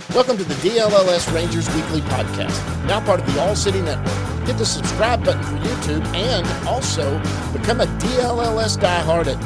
Welcome to the DLLS Rangers Weekly Podcast, now part of the All City Network. Hit the subscribe button for YouTube and also become a DLLS diehard at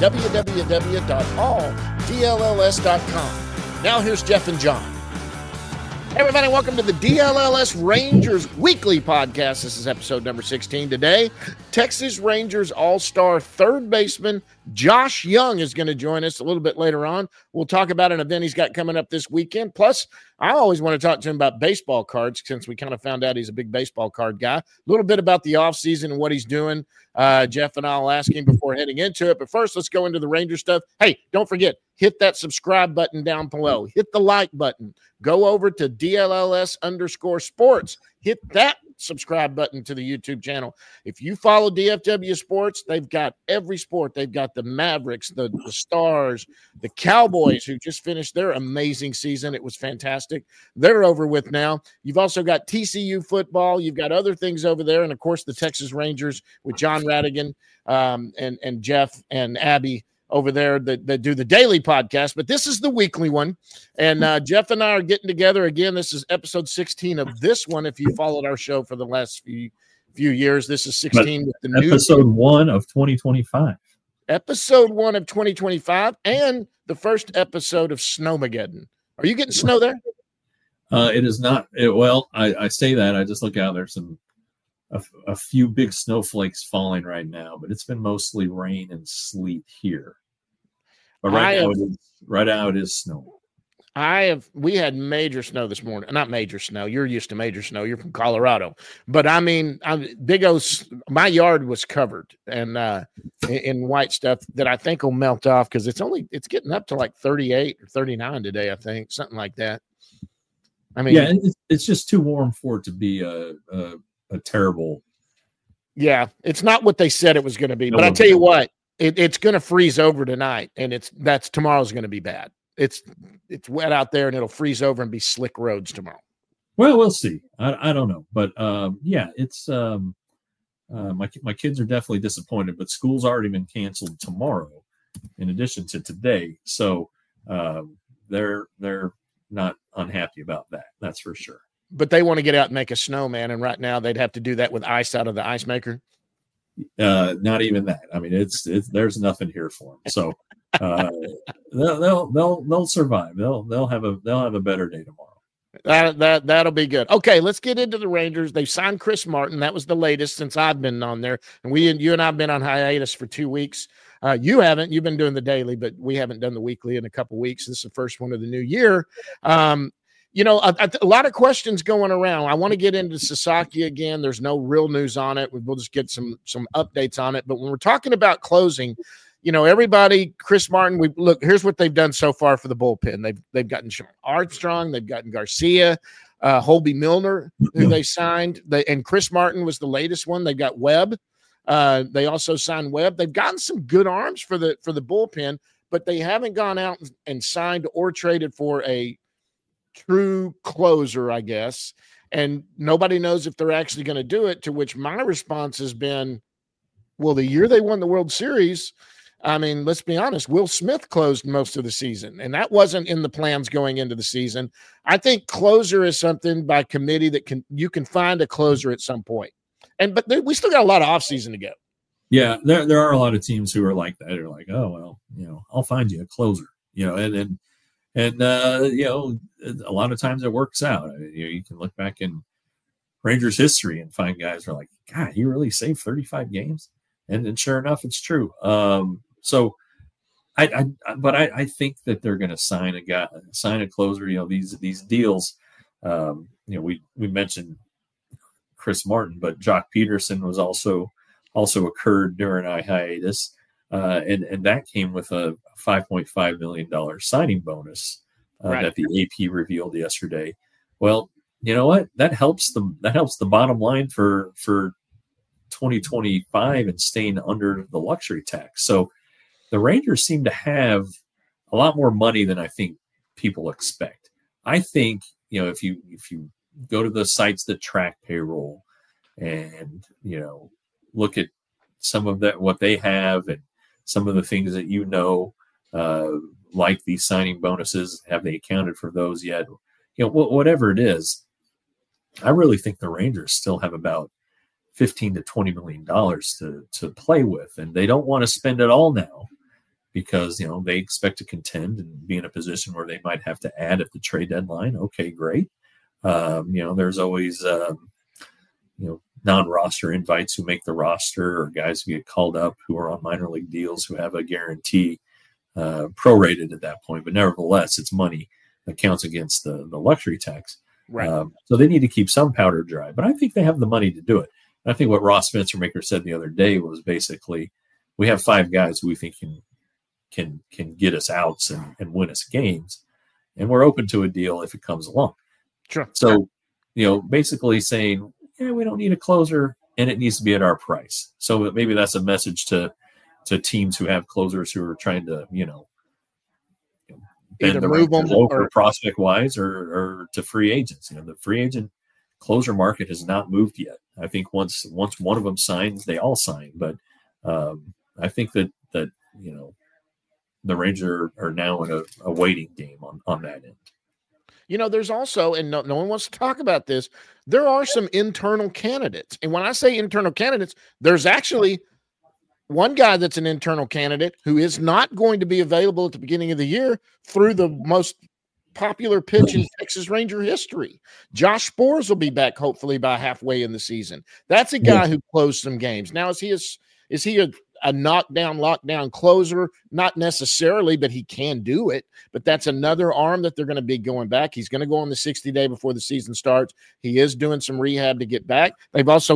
www.alldlls.com. Now here's Jeff and John. Hey everybody, welcome to the DLLS Rangers Weekly Podcast. This is episode number 16. Today, Texas Rangers All-Star third baseman Josh Jung is going to join us a little bit later on. We'll talk about an event he's got coming up this weekend. Plus, I always want to talk to him about baseball cards since we kind of found out he's a big baseball card guy. A little bit about the offseason and what he's doing. Jeff and I will ask him before heading into it. But first, let's go into the Ranger stuff. Hey, don't forget, hit that subscribe button down below. Hit the like button. Go over to DLLS_sports. Hit that subscribe button to the YouTube channel. If you follow DFW Sports, they've got every sport. They've got the Mavericks, the Stars, the Cowboys, who just finished their amazing season. It was fantastic. They're over with now. You've also got TCU football. You've got other things over there. And, of course, the Texas Rangers with John Radigan and Jeff and Abby over there that do the daily podcast, but this is the weekly one. And Jeff and I are getting together again. This is episode 16 of this one. If you followed our show for the last few years, this is 16 with the new episode 1 of 2025. Episode 1 of 2025 and the first episode of Snowmageddon. Are you getting snow there? It is not. I say that. I just look out. There's a few big snowflakes falling right now, but it's been mostly rain and sleet here. But right now it is snow. We had major snow this morning. Not major snow. You're used to major snow. You're from Colorado. But I mean, my yard was covered and in white stuff that I think will melt off because it's getting up to like 38 or 39 today, I think, something like that. I mean, yeah, it's just too warm for it to be a terrible. Yeah, it's not what they said it was going to be. But I tell you what, it's going to freeze over tonight, and tomorrow's going to be bad. It's wet out there, and it'll freeze over and be slick roads tomorrow. Well, we'll see. I don't know, but yeah, it's my kids are definitely disappointed. But school's already been canceled tomorrow, in addition to today. So they're not unhappy about that. That's for sure. But they want to get out and make a snowman, and right now they'd have to do that with ice out of the ice maker. Not even that. I mean, there's nothing here for them. So they'll survive. They'll have a better day tomorrow. That'll be good. Okay, let's get into the Rangers. They've signed Chris Martin. That was the latest since I've been on there, and you and I've been on hiatus for 2 weeks. You haven't. You've been doing the daily, but we haven't done the weekly in a couple weeks. This is the first one of the new year. A lot of questions going around. I want to get into Sasaki again. There's no real news on it. We'll just get some updates on it. But when we're talking about closing, everybody, Chris Martin, here's what they've done so far for the bullpen. They've gotten Sean Armstrong, they've gotten Garcia, Holby Milner, who they signed. And Chris Martin was the latest one. They've got Webb. They also signed Webb. They've gotten some good arms for the bullpen, but they haven't gone out and signed or traded for a true closer, I guess, and nobody knows if they're actually going to do it, to which my response has been, well, the year they won the World Series, I mean, let's be honest, Will Smith closed most of the season, and that wasn't in the plans going into the season. I think closer is something by committee that you can find a closer at some point. But we still got a lot of offseason to go. Yeah, there are a lot of teams who are like that. They're like, oh, well, I'll find you a closer, and a lot of times it works out. You can look back in Rangers history and find guys who are like, God, he really saved 35 games. And sure enough, it's true. So I think that they're going to sign a closer, these deals. We mentioned Chris Martin, but Jock Peterson was also occurred during our hiatus. And that came with a $5.5 million signing bonus that the AP revealed yesterday. Well, you know what? That helps the bottom line for 2025 and staying under the luxury tax. So the Rangers seem to have a lot more money than I think people expect. I think, if you go to the sites that track payroll and, look at some of that, what they have and some of the things that like these signing bonuses, have they accounted for those yet? whatever it is, I really think the Rangers still have about $15 to $20 million to play with, and they don't want to spend it all now because they expect to contend and be in a position where they might have to add at the trade deadline. Okay, great. There's always non-roster invites who make the roster, or guys who get called up who are on minor league deals who have a guarantee prorated at that point. But nevertheless, it's money that counts against the luxury tax. Right. So they need to keep some powder dry. But I think they have the money to do it. And I think what Ross Spencermaker said the other day was basically, we have 5 guys who we think can get us outs and win us games, and we're open to a deal if it comes along. Sure. So, basically saying, we don't need a closer, and it needs to be at our price. So maybe that's a message to teams who have closers who are trying to, bend the right or prospect wise, or to free agents. The free agent closer market has not moved yet. I think once one of them signs, they all sign. But I think that the Rangers are now in a waiting game on that end. There's also, and no one wants to talk about this, there are some internal candidates. And when I say internal candidates, there's actually one guy that's an internal candidate who is not going to be available at the beginning of the year through the most popular pitch in Texas Ranger history. Josh Sborz will be back hopefully by halfway in the season. That's a guy who closed some games. Now, is he a knockdown, lockdown closer? Not necessarily, but he can do it. But that's another arm that they're going to be going back. He's going to go on the 60-day before the season starts. He is doing some rehab to get back. They've got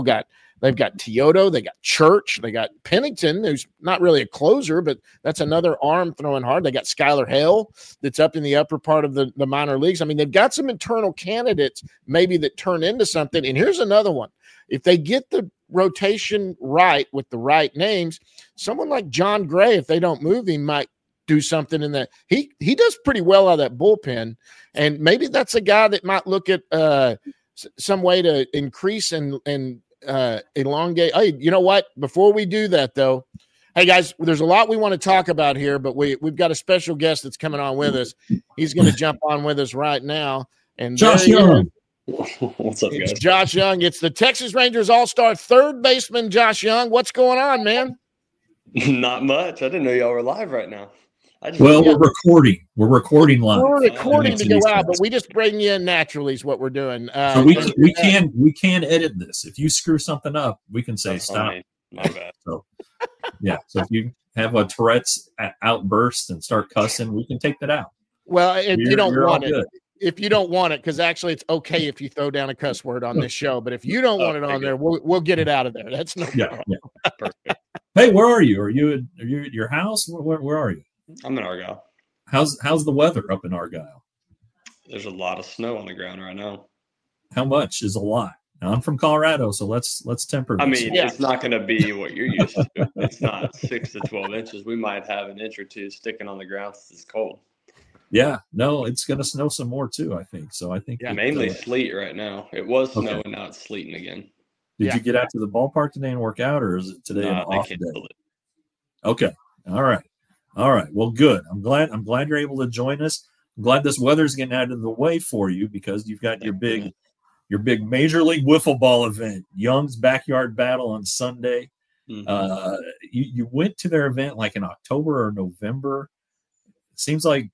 Teodo, they got Church, they got Pennington, who's not really a closer, but that's another arm throwing hard. They got Skylar Hale that's up in the upper part of the minor leagues. I mean, they've got some internal candidates maybe that turn into something. And here's another one. If they get the rotation right with the right names, someone like John Gray, if they don't move him, might do something in that. He does pretty well out of that bullpen. And maybe that's a guy that might look at some way to increase and elongate. Hey, you know what? Before we do that, though, hey guys, there's a lot we want to talk about here, but we've got a special guest that's coming on with us. He's going to jump on with us right now. And Josh Young. What's up, guys? It's Josh Young. It's the Texas Rangers All-Star third baseman, Josh Young. What's going on, man? Not much. I didn't know y'all were live right now. We're recording. We're recording live. We're recording to go out, but we just bring you in naturally is what we're doing. So we can edit this. If you screw something up, we can say stop. My bad. So if you have a Tourette's outburst and start cussing, we can take that out. Well, if you don't want it. If you don't want it, because actually it's okay if you throw down a cuss word on this show, but if you don't want it on there, we'll get it out of there. That's no problem. Yeah. Perfect. Hey, where are you? Are you at your house? Where are you? I'm in Argyle. How's the weather up in Argyle? There's a lot of snow on the ground right now. How much is a lot? Now, I'm from Colorado, so let's temper this. I mean, it's not going to be what you're used to. It's not 6 to 12 inches. We might have an inch or two sticking on the ground because it's cold. Yeah, no, it's going to snow some more too, I think. So I think mainly sleet right now. It was snowing, now it's sleeting again. Did you get out to the ballpark today and work out, or is it today an off day? Okay, all right. Well, good. I'm glad you're able to join us. I'm glad this weather's getting out of the way for you because you've got your big Major League Wiffle Ball event, Young's Backyard Battle on Sunday. Mm-hmm. You went to their event like in October or November. It seems like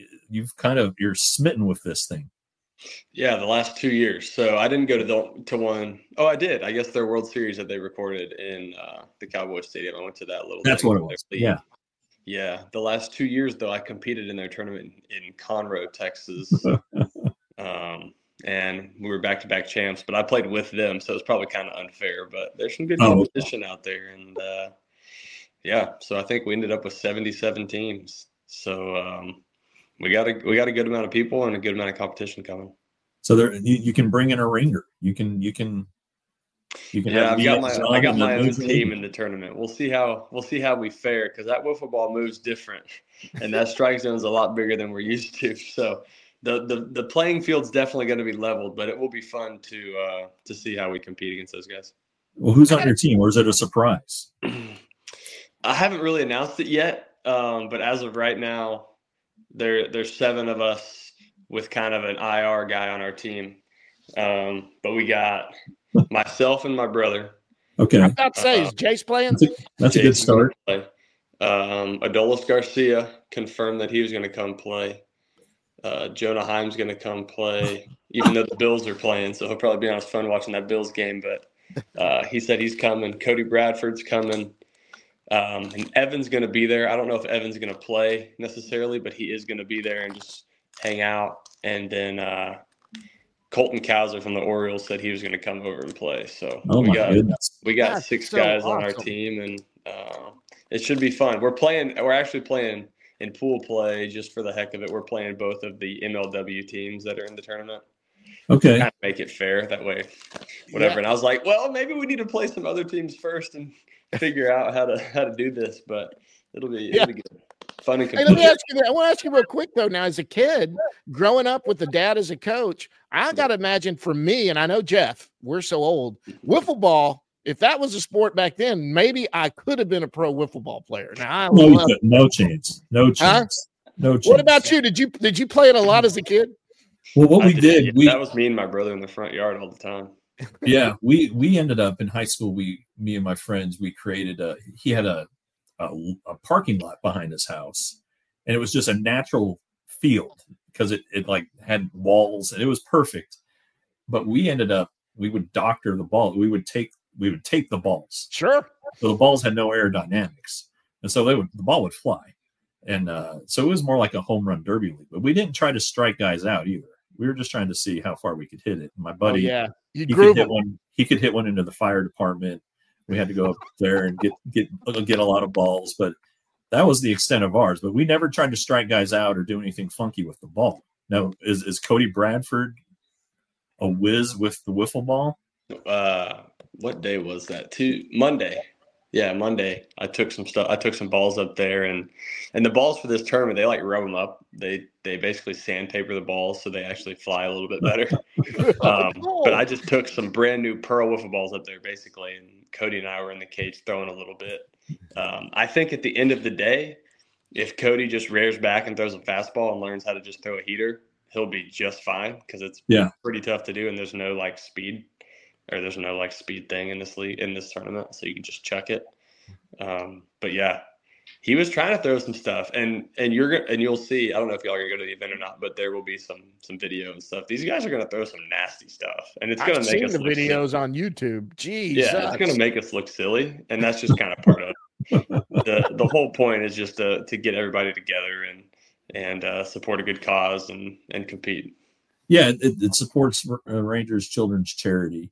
you're smitten with this thing. Yeah, the last 2 years. So I didn't go to one. Oh, I did. I guess their World Series that they recorded in the Cowboys Stadium. I went to that little. That's what it was. Yeah. Yeah. The last 2 years, though, I competed in their tournament in Conroe, Texas. And we were back-to-back champs, but I played with them, so it's probably kind of unfair. But there's some good competition out there. And, so I think we ended up with 77 teams. So we got a good amount of people and a good amount of competition coming. So there, you can bring in a ringer. You can. Yeah, I got my own team in the tournament. We'll see how we fare because that wiffle ball moves different, and that strike zone is a lot bigger than we're used to. So the playing field's definitely going to be leveled, but it will be fun to see how we compete against those guys. Well, who's on your team, or is it a surprise? I haven't really announced it yet, but as of right now, there's 7 of us with kind of an IR guy on our team. But we got myself and my brother. Okay. I'm about to say, is Jace playing? That's a good start. Adolis Garcia confirmed that he was going to come play. Jonah Heim's going to come play, even though the Bills are playing. So he'll probably be on his phone watching that Bills game. But he said he's coming. Cody Bradford's coming. And Evan's going to be there. I don't know if Evan's going to play necessarily, but he is going to be there and just hang out. And then Colton Cowser from the Orioles said he was going to come over and play. So we got That's 6 so guys awesome on our team, and it should be fun. We're actually playing in pool play just for the heck of it. We're playing both of the MLW teams that are in the tournament. Okay. Kind of make it fair that way, whatever. Yeah. And I was like, well, maybe we need to play some other teams first and figure out how to do this, but it'll be good. Fun and hey, let me ask you that. I want to ask you real quick though. Now, as a kid growing up with the dad as a coach, I got to imagine for me, and I know Jeff, we're so old, wiffle ball. If that was a sport back then, maybe I could have been a pro wiffle ball player. Now, no chance. No chance. What about you? Did you play it a lot as a kid? Well, what we did, that was me and my brother in the front yard all the time. Yeah, we ended up in high school. Me and my friends, we created he had a parking lot behind his house, and it was just a natural field because it like had walls and it was perfect. But we would doctor the ball. We would tape the balls. Sure. So the balls had no aerodynamics, and so the ball would fly. And so it was more like a home run derby league. But we didn't try to strike guys out either. We were just trying to see how far we could hit it. And my buddy, he could hit one into the fire department. We had to go up there and get a lot of balls, but that was the extent of ours. But we never tried to strike guys out or do anything funky with the ball. Now, is Cody Bradford a whiz with the wiffle ball? What day was that? Monday. Yeah, Monday. I took some balls up there, and the balls for this tournament, they like rub them up. They basically sandpaper the balls so they actually fly a little bit better. But I just took some brand new Pearl wiffle balls up there basically, and Cody and I were in the cage throwing a little bit. I think at the end of the day, if Cody just rears back and throws a fastball and learns how to just throw a heater, he'll be just fine because it's pretty tough to do, and there's no like speed. Or there's no like speed thing in this tournament, so you can just chuck it. But yeah, he was trying to throw some stuff, and you'll see. I don't know if y'all are gonna go to the event or not, but there will be some video and stuff. These guys are gonna throw some nasty stuff, and it's gonna make us. I've seen the videos on YouTube. Jeez, yeah, it's gonna make us look silly, and that's just kind of part of the whole point is just to get everybody together and support a good cause and compete. Yeah, it supports Rangers Children's Charity.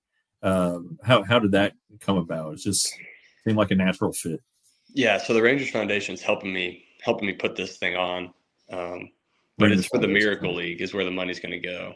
How did that come about? It just seemed like a natural fit. Yeah, so the Rangers Foundation is helping me put this thing on, but it's for the Miracle League is where the money's going to go.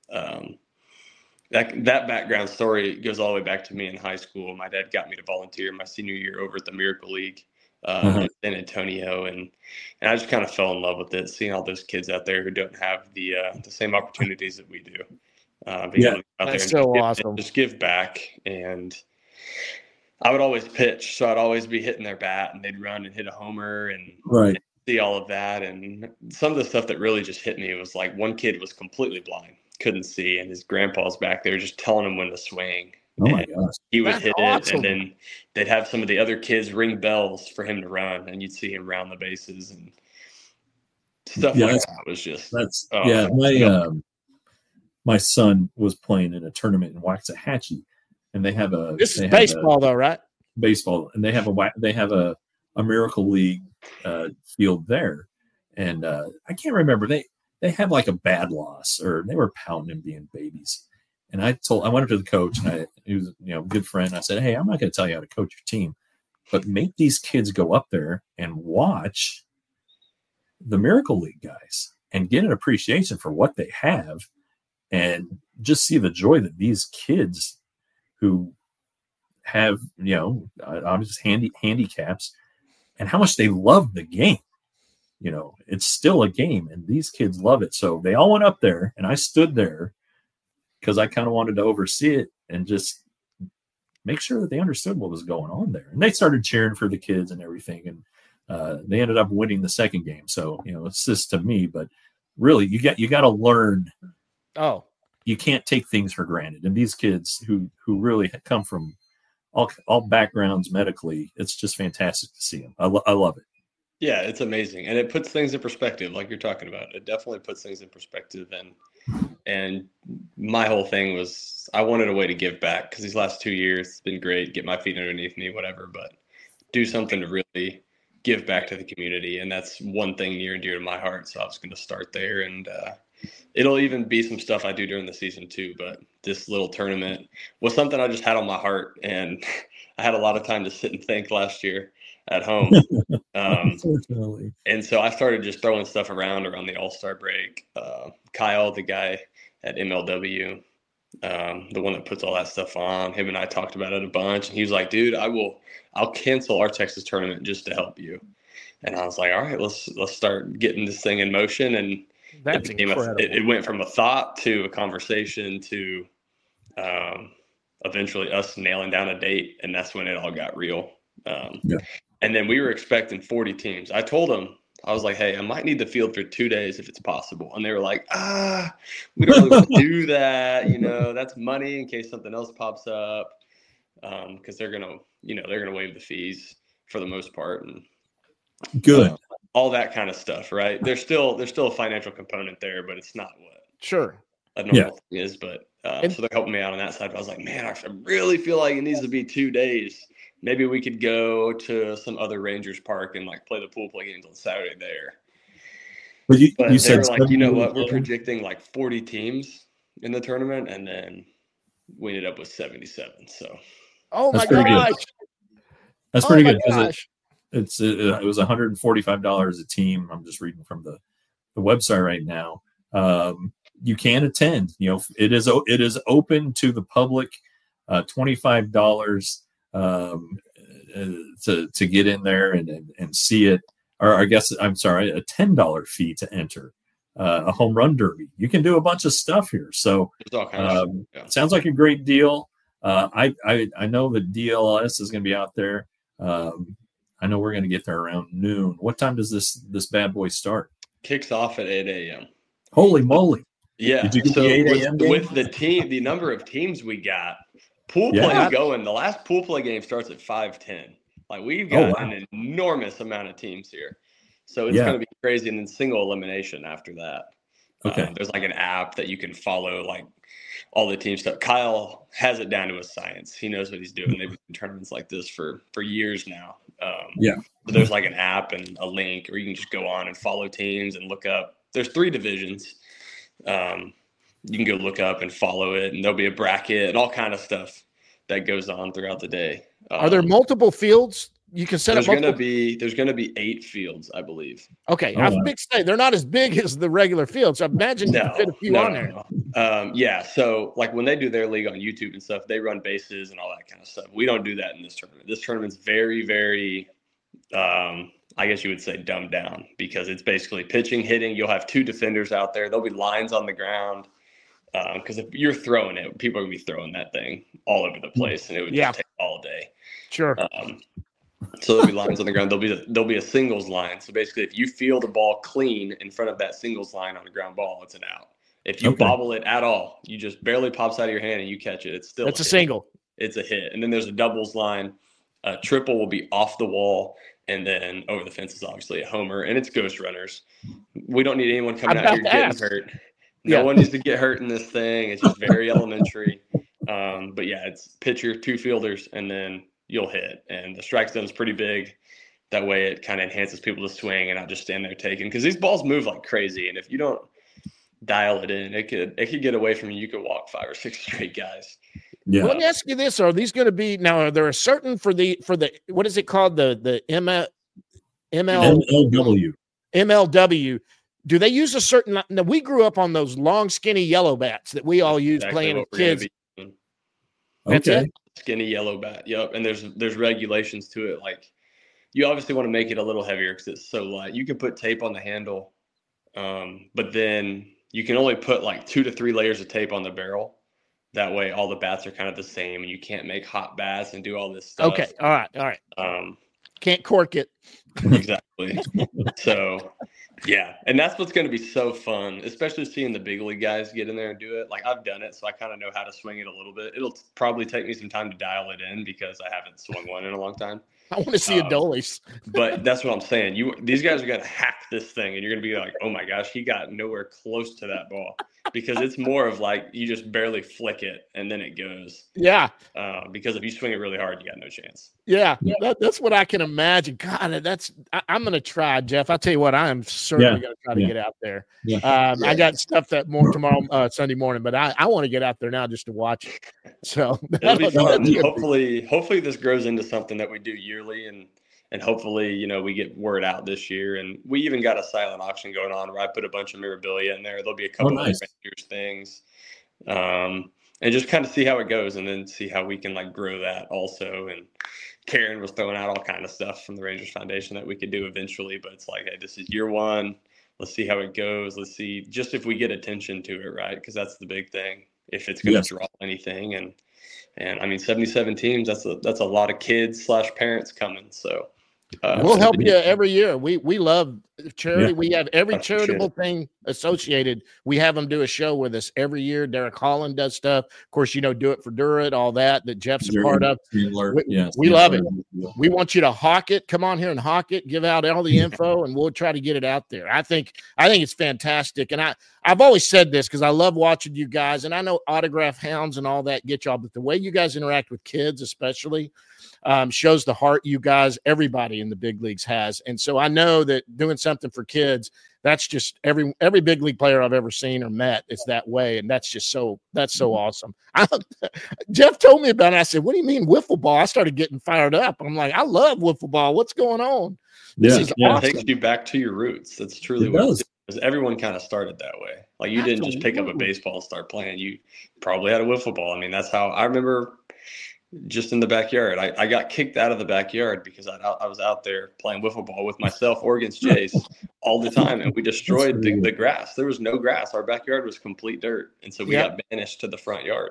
That background story goes all the way back to me in high school. My dad got me to volunteer my senior year over at the Miracle League in San Antonio, and I just kind of fell in love with it, seeing all those kids out there who don't have the same opportunities that we do. That's so awesome. Just give back. And I would always pitch, so I'd always be hitting their bat, and they'd run and hit a homer and see all of that. And some of the stuff that really just hit me was like one kid was completely blind, couldn't see, and his grandpa's back there just telling him when to swing. Oh my gosh. He would hit it, and then they'd have some of the other kids ring bells for him to run, and you'd see him round the bases and stuff like that. Was just my son was playing in a tournament in Waxahachie, and they have this is baseball though, right? Baseball, and they have a Miracle League field there, and I can't remember they had like a bad loss or they were pounding and being babies, and I went up to the coach, and he was a good friend. I said, hey, I'm not going to tell you how to coach your team, but make these kids go up there and watch the Miracle League guys and get an appreciation for what they have. And just see the joy that these kids who have, obviously handicaps and how much they love the game. It's still a game and these kids love it. So they all went up there and I stood there because I kind of wanted to oversee it and just make sure that they understood what was going on there. And they started cheering for the kids and everything. And they ended up winning the second game. So, it's just to me, but really, you got to learn. Oh, you can't take things for granted. And these kids who really come from all backgrounds medically, it's just fantastic to see them. I love it. Yeah, it's amazing. And it puts things in perspective, like you're talking about. It definitely puts things in perspective. And my whole thing was I wanted a way to give back because these last 2 years, it's been great, get my feet underneath me, whatever, but do something to really give back to the community. And that's one thing near and dear to my heart. So I was going to start there. And it'll even be some stuff I do during the season too. But this little tournament was something I just had on my heart. And I had a lot of time to sit and think last year at home. Unfortunately. And so I started just throwing stuff around the All-Star break. Kyle, the guy at MLW, the one that puts all that stuff on, him and I talked about it a bunch. And he was like, dude, I'll cancel our Texas tournament just to help you. And I was like, all right, let's start getting this thing in motion. And that's incredible. It went from a thought to a conversation to eventually us nailing down a date. And that's when it all got real. And then we were expecting 40 teams. I told them, I was like, hey, I might need the field for 2 days if it's possible. And they were like, we don't really want to do that. That's money in case something else pops up. Because they're going to waive the fees for the most part. And good. All that kind of stuff, right? There's still a financial component there, but it's not what sure a normal thing is. But so they're helping me out on that side. But I was like, man, I really feel like it needs to be 2 days. Maybe we could go to some other Rangers park and play the pool play games on Saturday there. But you they said were like, you know what? We're predicting 40 teams in the tournament, and then we ended up with 77. So, oh my gosh, that's pretty good. It was $145 a team. I'm just reading from the website right now. You can attend. It is open to the public. $25. To get in there and see it, or I guess I'm sorry, a $10 fee to enter a home run derby. You can do a bunch of stuff here. So it sounds like a great deal. I know that DLS is going to be out there. I know we're going to get there around noon. What time does this bad boy start? Kicks off at 8 a.m. Holy moly! Yeah. Did you get the 8 a.m. with the number of teams we got? Pool play is going. The last pool play game starts at 5:10. We've got an enormous amount of teams here, so it's going to be crazy. And then single elimination after that. Okay. There's an app that you can follow all the team stuff. Kyle has it down to a science. He knows what he's doing. They've been in tournaments like this for years now. So there's an app and a link, or you can just go on and follow teams and look up. There's 3 divisions. You can go look up and follow it, and there'll be a bracket and all kind of stuff that goes on throughout the day. Are there multiple fields you can set up? There's going to be 8 fields, I believe. Okay, I was big say they're not as big as the regular fields. So imagine you can fit a few on there. No. So when they do their league on YouTube and stuff, they run bases and all that kind of stuff. We don't do that in this tournament. This tournament's very, very, I guess you would say dumbed down, because it's basically pitching, hitting. You'll have 2 defenders out there. There'll be lines on the ground. Because if you're throwing it, people are going to be throwing that thing all over the place, and it would just take all day. Sure. So there'll be lines on the ground. There'll be a singles line. So basically, if you field a ball clean in front of that singles line on a ground ball, it's an out. If you bobble it at all, you just barely pops out of your hand and you catch it, it's still a single. It's a hit. And then there's a doubles line. A triple will be off the wall, and then over the fence is obviously a homer, and it's ghost runners. We don't need anyone coming out here getting hurt. No one needs to get hurt in this thing. It's just very elementary. But it's pitcher, 2 fielders, and then you'll hit. And the strike zone is pretty big. That way it kind of enhances people to swing and not just stand there taking. Because these balls move like crazy. And if you don't dial it in, it could get away from you. You could walk 5 or 6 straight guys. Yeah. Well, let me ask you this. Are these going to be – now, are there a certain for the – what is it called? The MLW. Do they use a certain – now, we grew up on those long, skinny yellow bats that we all used playing as kids. That's it? Skinny yellow bat. Yep. And there's regulations to it. You obviously want to make it a little heavier because it's so light. You can put tape on the handle, but then you can only put 2 to 3 layers of tape on the barrel. That way all the bats are kind of the same, and you can't make hot bats and do all this stuff. Okay. All right. Can't cork it. Exactly. So Yeah, and that's what's going to be so fun, especially seeing the big league guys get in there and do it. Like, I've done it, so I kind of know how to swing it a little bit. It'll probably take me some time to dial it in because I haven't swung one in a long time. I want to see Adolis. But that's what I'm saying. These guys are going to hack this thing, and you're going to be like, oh, my gosh, he got nowhere close to that ball. Because it's more of like you just barely flick it, and then it goes. Yeah. Because if you swing it really hard, you got no chance. Yeah, that's what I can imagine. God, I'm going to try, Jeff. I'll tell you what, I am certainly going to try to get out there. Yeah. I got stuff that more tomorrow, Sunday morning, but I want to get out there now just to watch it. So it'll be fun. Hopefully this grows into something that we do yearly, and hopefully, we get word out this year. And we even got a silent auction going on where I put a bunch of memorabilia in there. There'll be a couple of Rangers things. And just kind of see how it goes, and then see how we can like grow that also. And Karen was throwing out all kind of stuff from the Rangers Foundation that we could do eventually, but it's like, hey, this is year one. Let's see how it goes. Let's see just if we get attention to it, right? Because that's the big thing. If it's going to draw anything, and I mean, 77 teams. That's a lot of kids / parents coming. So we'll help you every year. We love charity. We have every charitable thing associated. We have them do a show with us every year. Derek Holland does stuff. Of course, Do It for Durrett, all that Jeff's a part of. We love it. We want you to hawk it. Come on here and hawk it. Give out all the info, and we'll try to get it out there. I think it's fantastic. And I've always said this because I love watching you guys, and I know autograph hounds and all that get y'all, but the way you guys interact with kids, especially, shows the heart you guys, everybody in the big leagues has. And so I know that doing something for kids, that's just every big league player I've ever seen or met is that way. And that's just so awesome. Jeff told me about it. I said, what do you mean wiffle ball? I started getting fired up. I'm like, I love wiffle ball. What's going on? This is awesome. It takes you back to your roots. That's truly what it is. Because everyone kind of started that way. Like you didn't just pick up a baseball and start playing. You probably had a wiffle ball. I mean, that's how I remember. Just in the backyard. I got kicked out of the backyard because I was out there playing wiffle ball with myself or against Jace all the time, and we destroyed the grass. There was no grass. Our backyard was complete dirt, and so we got banished to the front yard.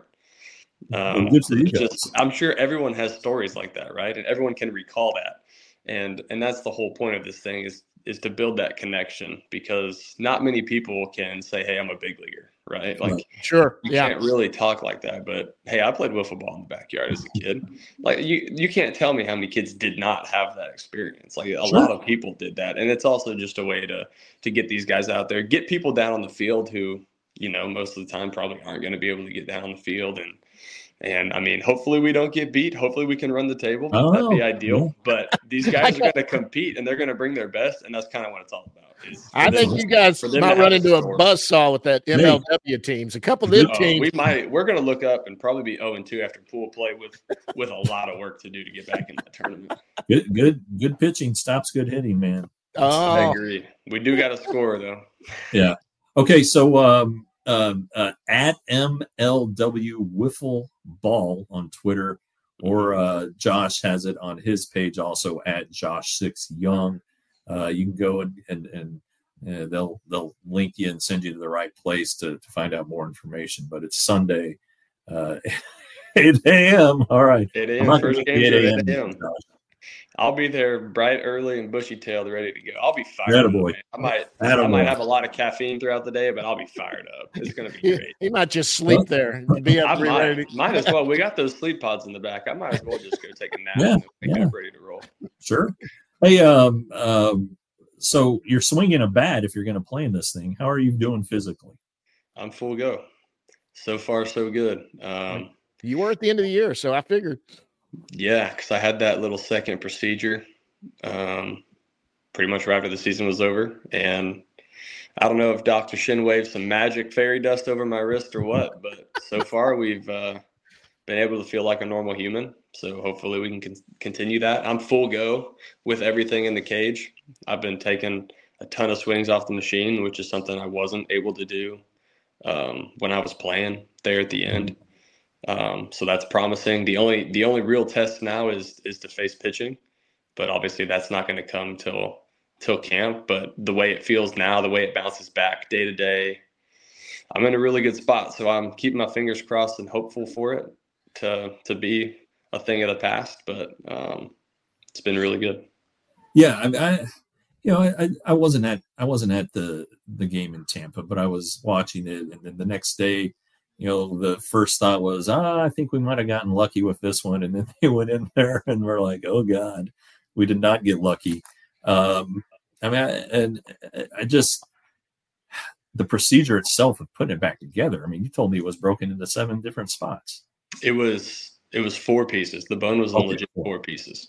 I'm sure everyone has stories like that, right? And everyone can recall that. And that's the whole point of this thing is to build that connection, because not many people can say, hey, I'm a big leaguer, right? Like, sure, you can't really talk like that. But hey, I played wiffle ball in the backyard as a kid. Like you can't tell me how many kids did not have that experience. Like a lot of people did that. And it's also just a way to get these guys out there, get people down on the field who, most of the time probably aren't going to be able to get down on the field. And I mean, hopefully we don't get beat. Hopefully we can run the table. That'd be ideal. But these guys are going to compete, and they're going to bring their best, and that's kind of what it's all about. I think you guys might run into a buzzsaw with that MLW teams. A couple of them teams. We're going to look up and probably be 0-2 after pool play with a lot of work to do to get back in that tournament. Good pitching stops good hitting, man. I agree. We do got to score though. Yeah. Okay. So at MLW Wiffle Ball on Twitter, or Josh has it on his page also at Josh6Young. You can go and they'll link you and send you to the right place to find out more information. But it's Sunday, 8 a.m. All right. 8 a.m. First game at 8 a.m. I'll be there bright early and bushy-tailed, ready to go. I'll be fired up. I might have a lot of caffeine throughout the day, but I'll be fired up. It's going to be great. He might just sleep there. Might as well. We got those sleep pods in the back. I might as well just go take a nap and get ready to roll. Sure. Hey, so you're swinging a bat if you're going to play in this thing. How are you doing physically? I'm full go. So far, so good. You were at the end of the year, so I figured. Yeah, because I had that little second procedure pretty much right after the season was over. And I don't know if Dr. Shin waved some magic fairy dust over my wrist or what, but so far we've been able to feel like a normal human. So hopefully we can continue that. I'm full go with everything in the cage. I've been taking a ton of swings off the machine, which is something I wasn't able to do when I was playing there at the end. So that's promising. The only real test now is to face pitching, but obviously that's not going to come till camp. But the way it feels now, the way it bounces back day to day, I'm in a really good spot. So I'm keeping my fingers crossed and hopeful for it to be a thing of the past. But it's been really good. Yeah, I wasn't at the game in Tampa, but I was watching it, and then the next day, the first thought was, I think we might have gotten lucky with this one, and then they went in there, and we're like, oh God, we did not get lucky. The procedure itself of putting it back together. I mean, you told me it was broken into 7 different spots. It was 4 pieces. The bone was only legit 4 pieces.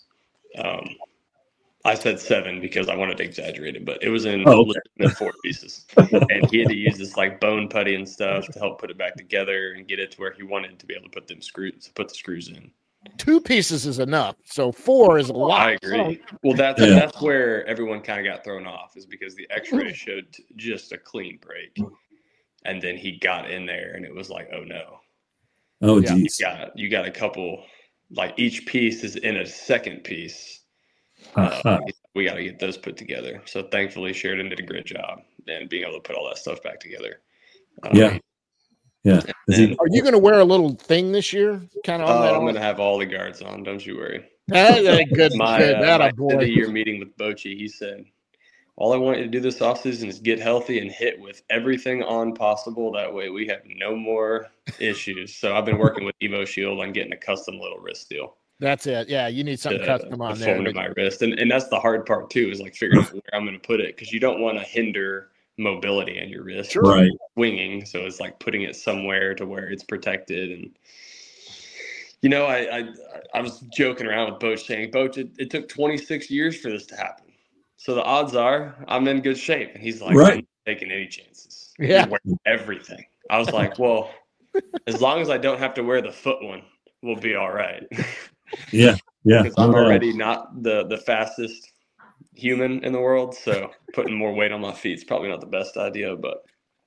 I said 7 because I wanted to exaggerate it, but it was in 4 pieces. And he had to use this like bone putty and stuff to help put it back together and get it to where he wanted to be able to put the screws in. 2 pieces is enough. So 4 is a lot. I agree. Well, that's where everyone kind of got thrown off, is because the X-ray showed just a clean break, and then he got in there, and it was like, oh no. Oh geez. You got a couple, like each piece is in a second piece. We got to get those put together. So thankfully, Sheridan did a great job and being able to put all that stuff back together. Yeah. Are you going to wear a little thing this year? Kind of. I'm going to have all the guards on. Don't you worry. Good. My year meeting with Bochy, he said, all I want you to do this offseason is get healthy and hit with everything on possible. That way we have no more issues. So I've been working with Evo Shield on getting a custom little wrist deal. That's it. Yeah, you need something custom on there. To my wrist. And that's the hard part too, is like figuring out where I'm going to put it, because you don't want to hinder mobility in your wrist, right? Swinging. So it's like putting it somewhere to where it's protected. And I was joking around with Boach, saying, Boach, it took 26 years for this to happen. So the odds are I'm in good shape. And he's like, right. I'm not taking any chances. Yeah. You wear everything. I was like, well, as long as I don't have to wear the foot one, we'll be all right. Yeah. Because I'm already not the fastest human in the world, so putting more weight on my feet is probably not the best idea, but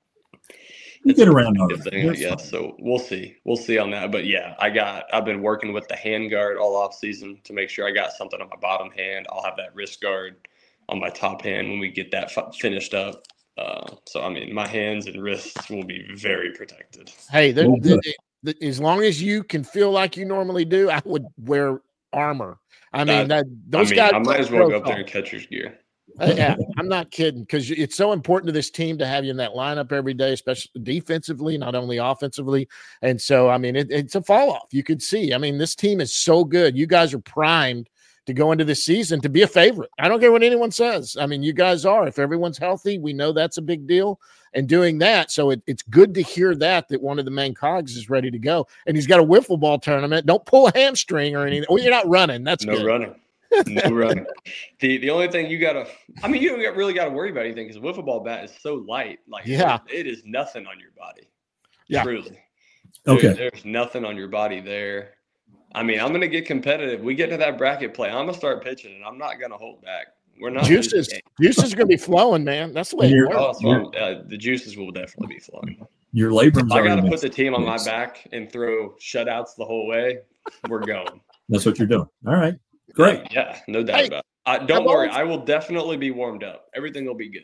you get around on it. I guess. So we'll see on that. But yeah, I've been working with the hand guard all off season to make sure I got something on my bottom hand. I'll have that wrist guard on my top hand when we get that finished up. So I mean, my hands and wrists will be very protected. Hey, as long as you can feel like you normally do, I would wear armor. I mean, guys. I might as well go up there in catcher's gear. Yeah, I'm not kidding, because it's so important to this team to have you in that lineup every day, especially defensively, not only offensively. And so, I mean, it's a fall off. You could see. I mean, this team is so good. You guys are primed to go into this season to be a favorite. I don't care what anyone says. I mean, you guys are. If everyone's healthy, we know that's a big deal. And doing that, so it's good to hear that one of the main cogs is ready to go. And he's got a wiffle ball tournament. Don't pull a hamstring or anything. Well, you're not running. That's no good. Running. No running. The only thing you don't really got to worry about anything, because a wiffle ball bat is so light. Like, it is nothing on your body. Yeah. Truly. Okay. There's nothing on your body there. I mean, I'm going to get competitive. We get to that bracket play, I'm going to start pitching, and I'm not going to hold back. We're not. Juices are going to be flowing, man. That's the way it works. The juices will definitely be flowing. Your labor. I got to put the team on my back and throw shutouts the whole way. We're going. That's what you're doing. All right. Great. Yeah, no doubt about it. Don't worry. I will definitely be warmed up. Everything will be good.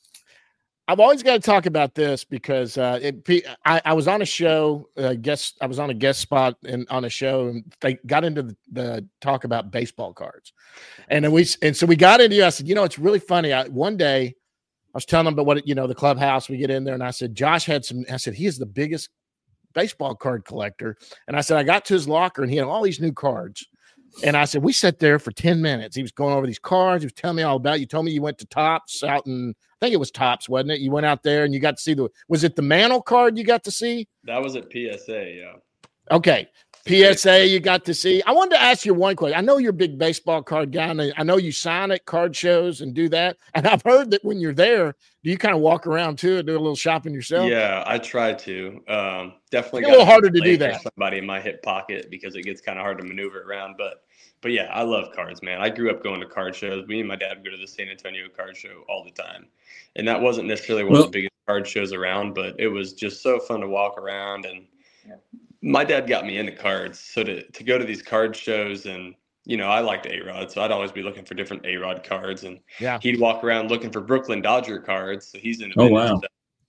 I've always got to talk about this because I was on a show, I was on a guest spot on a show, and they got into the talk about baseball cards. And so we got into, I said, it's really funny. One day I was telling them about the clubhouse, we get in there, and I said, Josh had I said, he is the biggest baseball card collector. And I said, I got to his locker and he had all these new cards. And I said, we sat there for 10 minutes. He was going over these cards. He was telling me all about it. You told me you went to Topps out in, I think it was Topps, wasn't it? You went out there and you got to see was it the Mantle card you got to see? That was at PSA, yeah. Okay. PSA you got to see. I wanted to ask you one question. I know you're a big baseball card guy, and I know you sign at card shows and do that. And I've heard that when you're there, do you kind of walk around too and do a little shopping yourself? Yeah, I try to. Definitely a little harder to do that. Somebody in my hip pocket, because it gets kind of hard to maneuver around. But yeah, I love cards, man. I grew up going to card shows. Me and my dad would go to the San Antonio card show all the time. And that wasn't necessarily one of the biggest card shows around, but it was just so fun to walk around. And my dad got me into cards. So to go to these card shows, and, I liked A-Rod, so I'd always be looking for different A-Rod cards. And he'd walk around looking for Brooklyn Dodger cards. So he's into stuff.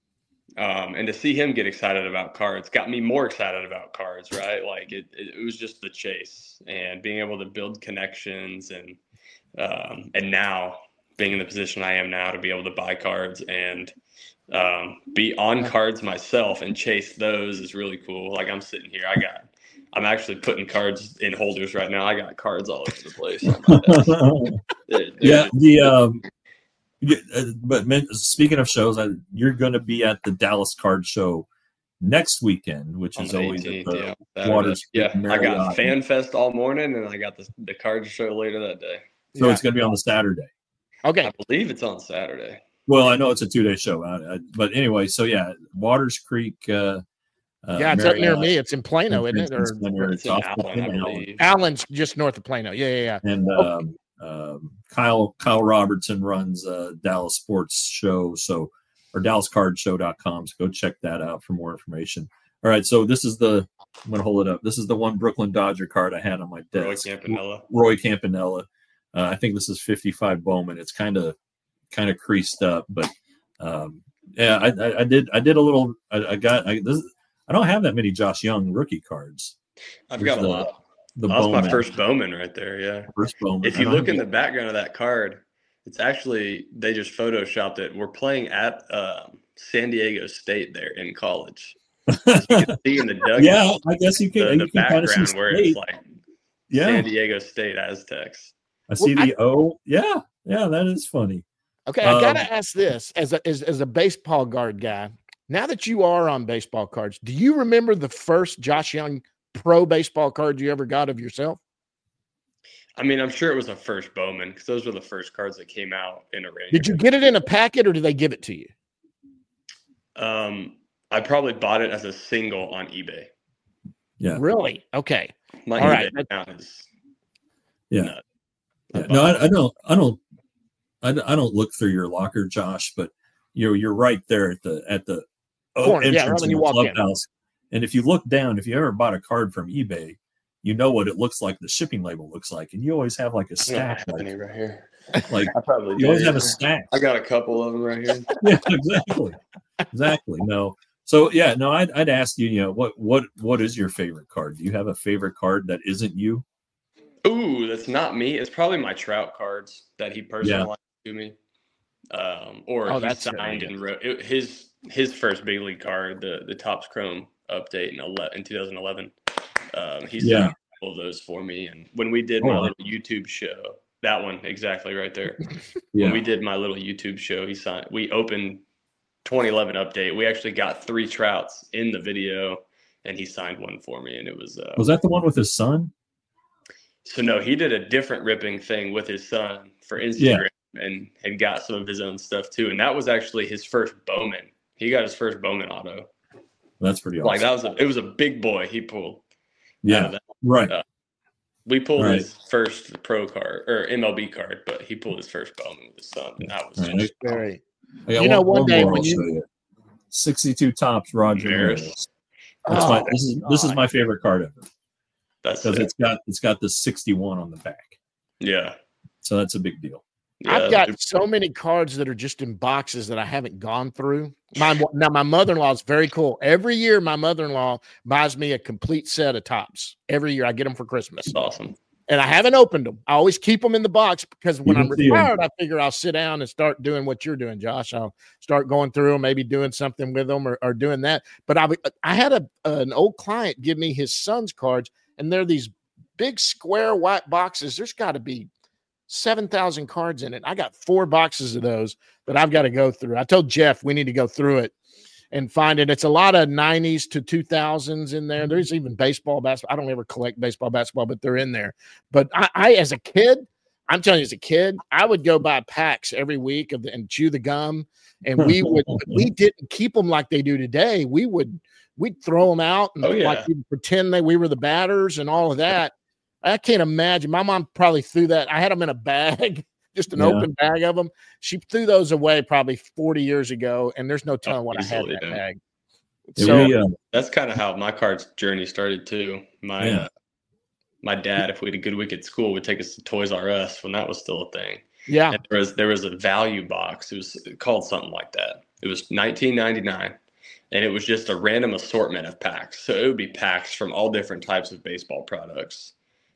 And to see him get excited about cards got me more excited about cards, right? Like it was just the chase and being able to build connections. And now being in the position I am now to be able to buy cards and be on cards myself and chase those is really cool. Like I'm sitting here, I'm actually putting cards in holders right now. I got cards all over the place. But speaking of shows, you're going to be at the Dallas Card Show next weekend, which is always 18th, at the Waters. Yeah, I got Fan Fest all morning, and I got the card show later that day. So it's going to be on the Saturday. Okay, I believe it's on Saturday. Well, I know it's a 2-day show, but anyway, so yeah, Waters Creek. It's up near me. It's in Plano, isn't it? Or it's in Allen, I believe. Allen's just north of Plano. Yeah. And Kyle Robertson runs Dallas Sports Show, or DallasCardShow.com. So go check that out for more information. All right, so this is I'm going to hold it up. This is the one Brooklyn Dodger card I had on my desk. Roy Campanella. I think this is 55 Bowman. It's kind of creased up, but I did a little. I don't have that many Josh Young rookie cards. I've got a lot. That's my first Bowman right there. Yeah, first Bowman. If you look in the background of that card, it's actually they just photoshopped it. We're playing at San Diego State there in college. You can see in the dugout. Yeah, I guess you can. The background where it's like San Diego State Aztecs. I see the O. Yeah, that is funny. Okay, I gotta ask this as a baseball card guy. Now that you are on baseball cards, do you remember the first Josh Young pro baseball card you ever got of yourself? I mean, I'm sure it was a first Bowman because those were the first cards that came out in a Ranger. Did you get it in a packet or did they give it to you? I probably bought it as a single on eBay. Yeah. Really? Okay. My eBay account is. Yeah. No, I don't look through your locker, Josh, but you're right there at the entrance in the clubhouse. And if you look down, if you ever bought a card from eBay, you know what it looks like. The shipping label looks like, and you always have like a stack right here. Like I probably you always have a stack. I got a couple of them right here. Yeah, exactly. No. So yeah, no. I'd ask you, what is your favorite card? Do you have a favorite card that isn't you? Ooh, that's not me. It's probably my Trout cards that he personalized to me. Or he signed and wrote his first big league card, the Topps Chrome update in 2011. He signed all of those for me. And when we did my little YouTube show, that one exactly right there. When we did my little YouTube show, we opened 2011 update. We actually got 3 Trouts in the video, and he signed one for me. And it was that the one with his son? So no, he did a different ripping thing with his son for Instagram and got some of his own stuff too. And that was actually his first Bowman. He got his first Bowman auto. That's pretty awesome. Like it was a big boy he pulled. Yeah, right. We pulled his first pro card or MLB card, but he pulled his first Bowman with his son, and that was just very. One day when you 62 Topps Roger Maris. This is my favorite card ever. That's because it's got the 61 on the back. Yeah. So that's a big deal. Yeah, I've got so many cards that are just in boxes that I haven't gone through. My mother-in-law is very cool. Every year, my mother-in-law buys me a complete set of Topps. Every year, I get them for Christmas. That's awesome. And I haven't opened them. I always keep them in the box because when I'm retired, I figure I'll sit down and start doing what you're doing, Josh. I'll start going through them, maybe doing something with them or doing that. But I had an old client give me his son's cards, and they're these big square white boxes. There's got to be 7,000 cards in it. I got 4 boxes of those that I've got to go through. I told Jeff we need to go through it and find it. It's a lot of 90s to 2000s in there. There's even baseball, basketball. I don't ever collect baseball, basketball, but they're in there. But I as a kid, I'm telling you, as a kid, I would go buy packs every week and chew the gum. And we didn't keep them like they do today. We'd throw them out and like we'd pretend we were the batters and all of that. I can't imagine. My mom probably threw that. I had them in a bag, just an open bag of them. She threw those away probably 40 years ago, and there's no telling what I had in that bag. So that's kind of how my cards journey started too. My dad, if we had a good week at school, would take us to Toys R Us when that was still a thing. Yeah, and there was a value box. It was called something like that. It was $19.99, and it was just a random assortment of packs. So it would be packs from all different types of baseball products.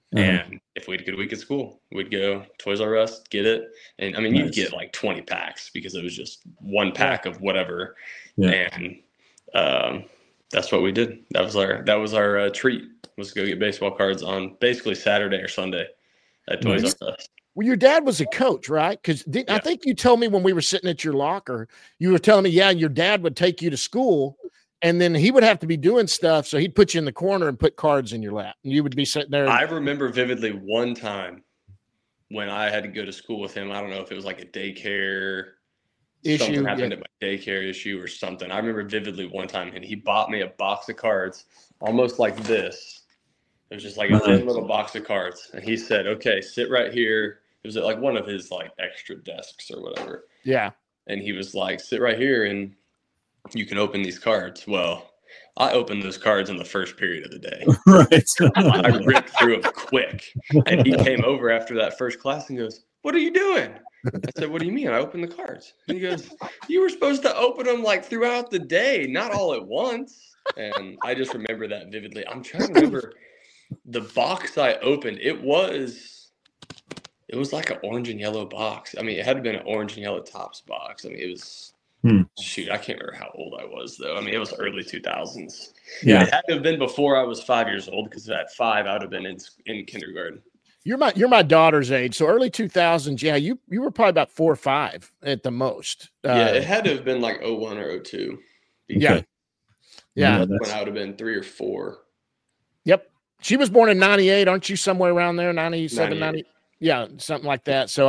And if we had a good week at school, we'd go Toys R Us, get it. And I mean, you'd get like 20 packs because it was just one pack of whatever. Yeah. And that's what we did. That was our treat, was to go get baseball cards on basically Saturday or Sunday at Toys R Us. Well, your dad was a coach, right? Because I think you told me when we were sitting at your locker, you were telling me, your dad would take you to school, and then he would have to be doing stuff, so he'd put you in the corner and put cards in your lap, and you would be sitting there. I remember vividly one time when I had to go to school with him. I don't know if it was like a daycare issue. Something happened at my daycare issue or something. I remember vividly one time, and he bought me a box of cards almost like this. It was just like a thin little box of cards. And he said, okay, sit right here. It was at like one of his like extra desks or whatever. Yeah. And he was like, sit right here and you can open these cards. Well, I opened those cards in the first period of the day. Right. I ripped through them quick. And he came over after that first class and goes, what are you doing? I said, what do you mean? I opened the cards. And he goes, you were supposed to open them like throughout the day, not all at once. And I just remember that vividly. I'm trying to remember the box I opened. It was like an orange and yellow box. I mean, it had been an orange and yellow Topps box. I mean, it was, shoot, I can't remember how old I was, though. I mean, it was early 2000s. Yeah. It had to have been before I was 5 years old, because at 5, I would have been in kindergarten. You're my daughter's age. So early 2000s. Yeah. You were probably about 4 or 5 at the most. It had to have been like 01 or 02. Yeah. Yeah. When I would have been 3 or 4. Yep. She was born in 98. Aren't you somewhere around there? 97, 90. Yeah, something like that. So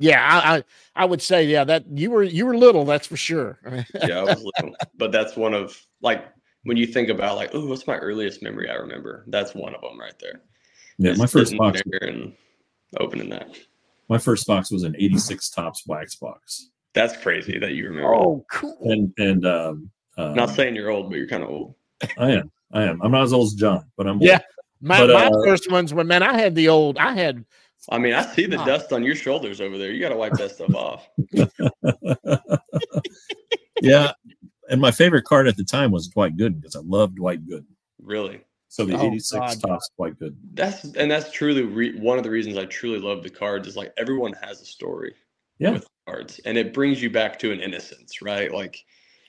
I would say, that you were little, that's for sure. Yeah, I was little. But that's one of, like, when you think about like, oh, what's my earliest memory I remember? That's one of them right there. Yeah, my first box and opening that. My first box was an 86 Topps wax box. That's crazy that you remember. Oh, cool. And not saying you're old, but you're kind of old. I am. I'm not as old as John, but I'm old. Yeah. My first ones were, man, I mean, I see the dust on your shoulders over there. You got to wipe that stuff off. Yeah. And my favorite card at the time was Dwight Gooden, because I loved Dwight Gooden. Really? So the 86 Topps Dwight Gooden. That's truly one of the reasons I truly love the cards, is like everyone has a story with cards, and it brings you back to an innocence, right? Like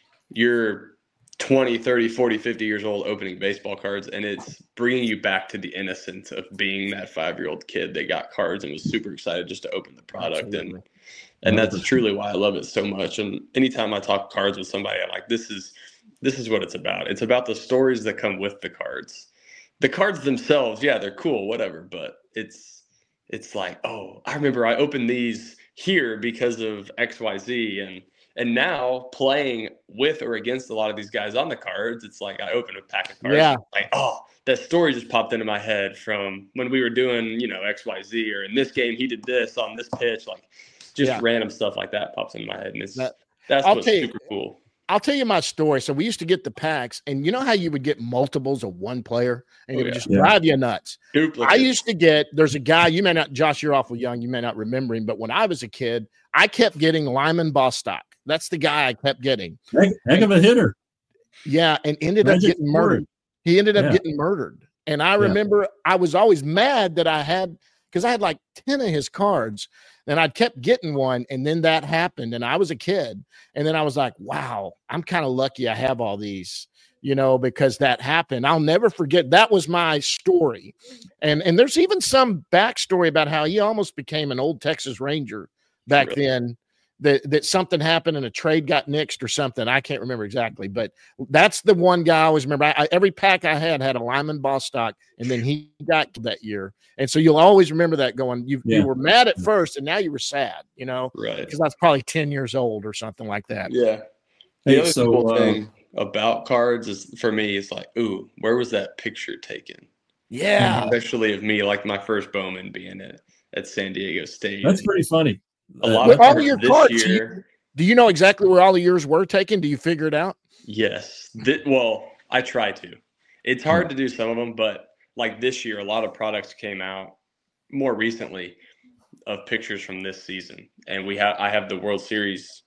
you're 20, 30, 40, 50 years old opening baseball cards, and it's bringing you back to the innocence of being that 5-year-old kid that got cards and was super excited just to open the product. Absolutely. And that's truly why I love it so much. And anytime I talk cards with somebody, I'm like, this is what it's about. It's about the stories that come with the cards. The cards themselves, they're cool, whatever, but it's like, oh, I remember I opened these here because of XYZ, and now playing with or against a lot of these guys on the cards, it's like I open a pack of cards. Yeah. Like, oh, that story just popped into my head from when we were doing, XYZ, or in this game he did this on this pitch. Like just random stuff like that pops into my head. And that's what's super cool. I'll tell you my story. So we used to get the packs, and you know how you would get multiples of one player, and it would just drive you nuts. Duplicate. I used to get, there's a guy, you may not, Josh, you're awful young, you may not remember him, but when I was a kid, I kept getting Lyman Bostock. That's the guy I kept getting. Heck of a hitter. Yeah, and ended up getting murdered. He ended up getting murdered. And I remember I was always mad that I had like 10 of his cards, and I'd kept getting one, and then that happened, and I was a kid. And then I was like, wow, I'm kind of lucky I have all these, because that happened. I'll never forget. That was my story. And there's even some backstory about how he almost became an old Texas Ranger back then. That something happened and a trade got nixed or something. I can't remember exactly, but that's the one guy I always remember. Every pack I had a Lyman Bostock, and then he got that year. And so you'll always remember that going, you were mad at first and now you were sad, right? Because that's probably 10 years old or something like that. Yeah. The other cool thing about cards is, for me, it's like, ooh, where was that picture taken? Yeah. Especially of me, like my first Bowman being at San Diego State. That's pretty funny. A lot of all your cards year. Do you know exactly where all of yours were taken? Do you figure it out? Yes. Well, I try to. It's hard to do some of them, but like this year, a lot of products came out more recently of pictures from this season, and I have the World Series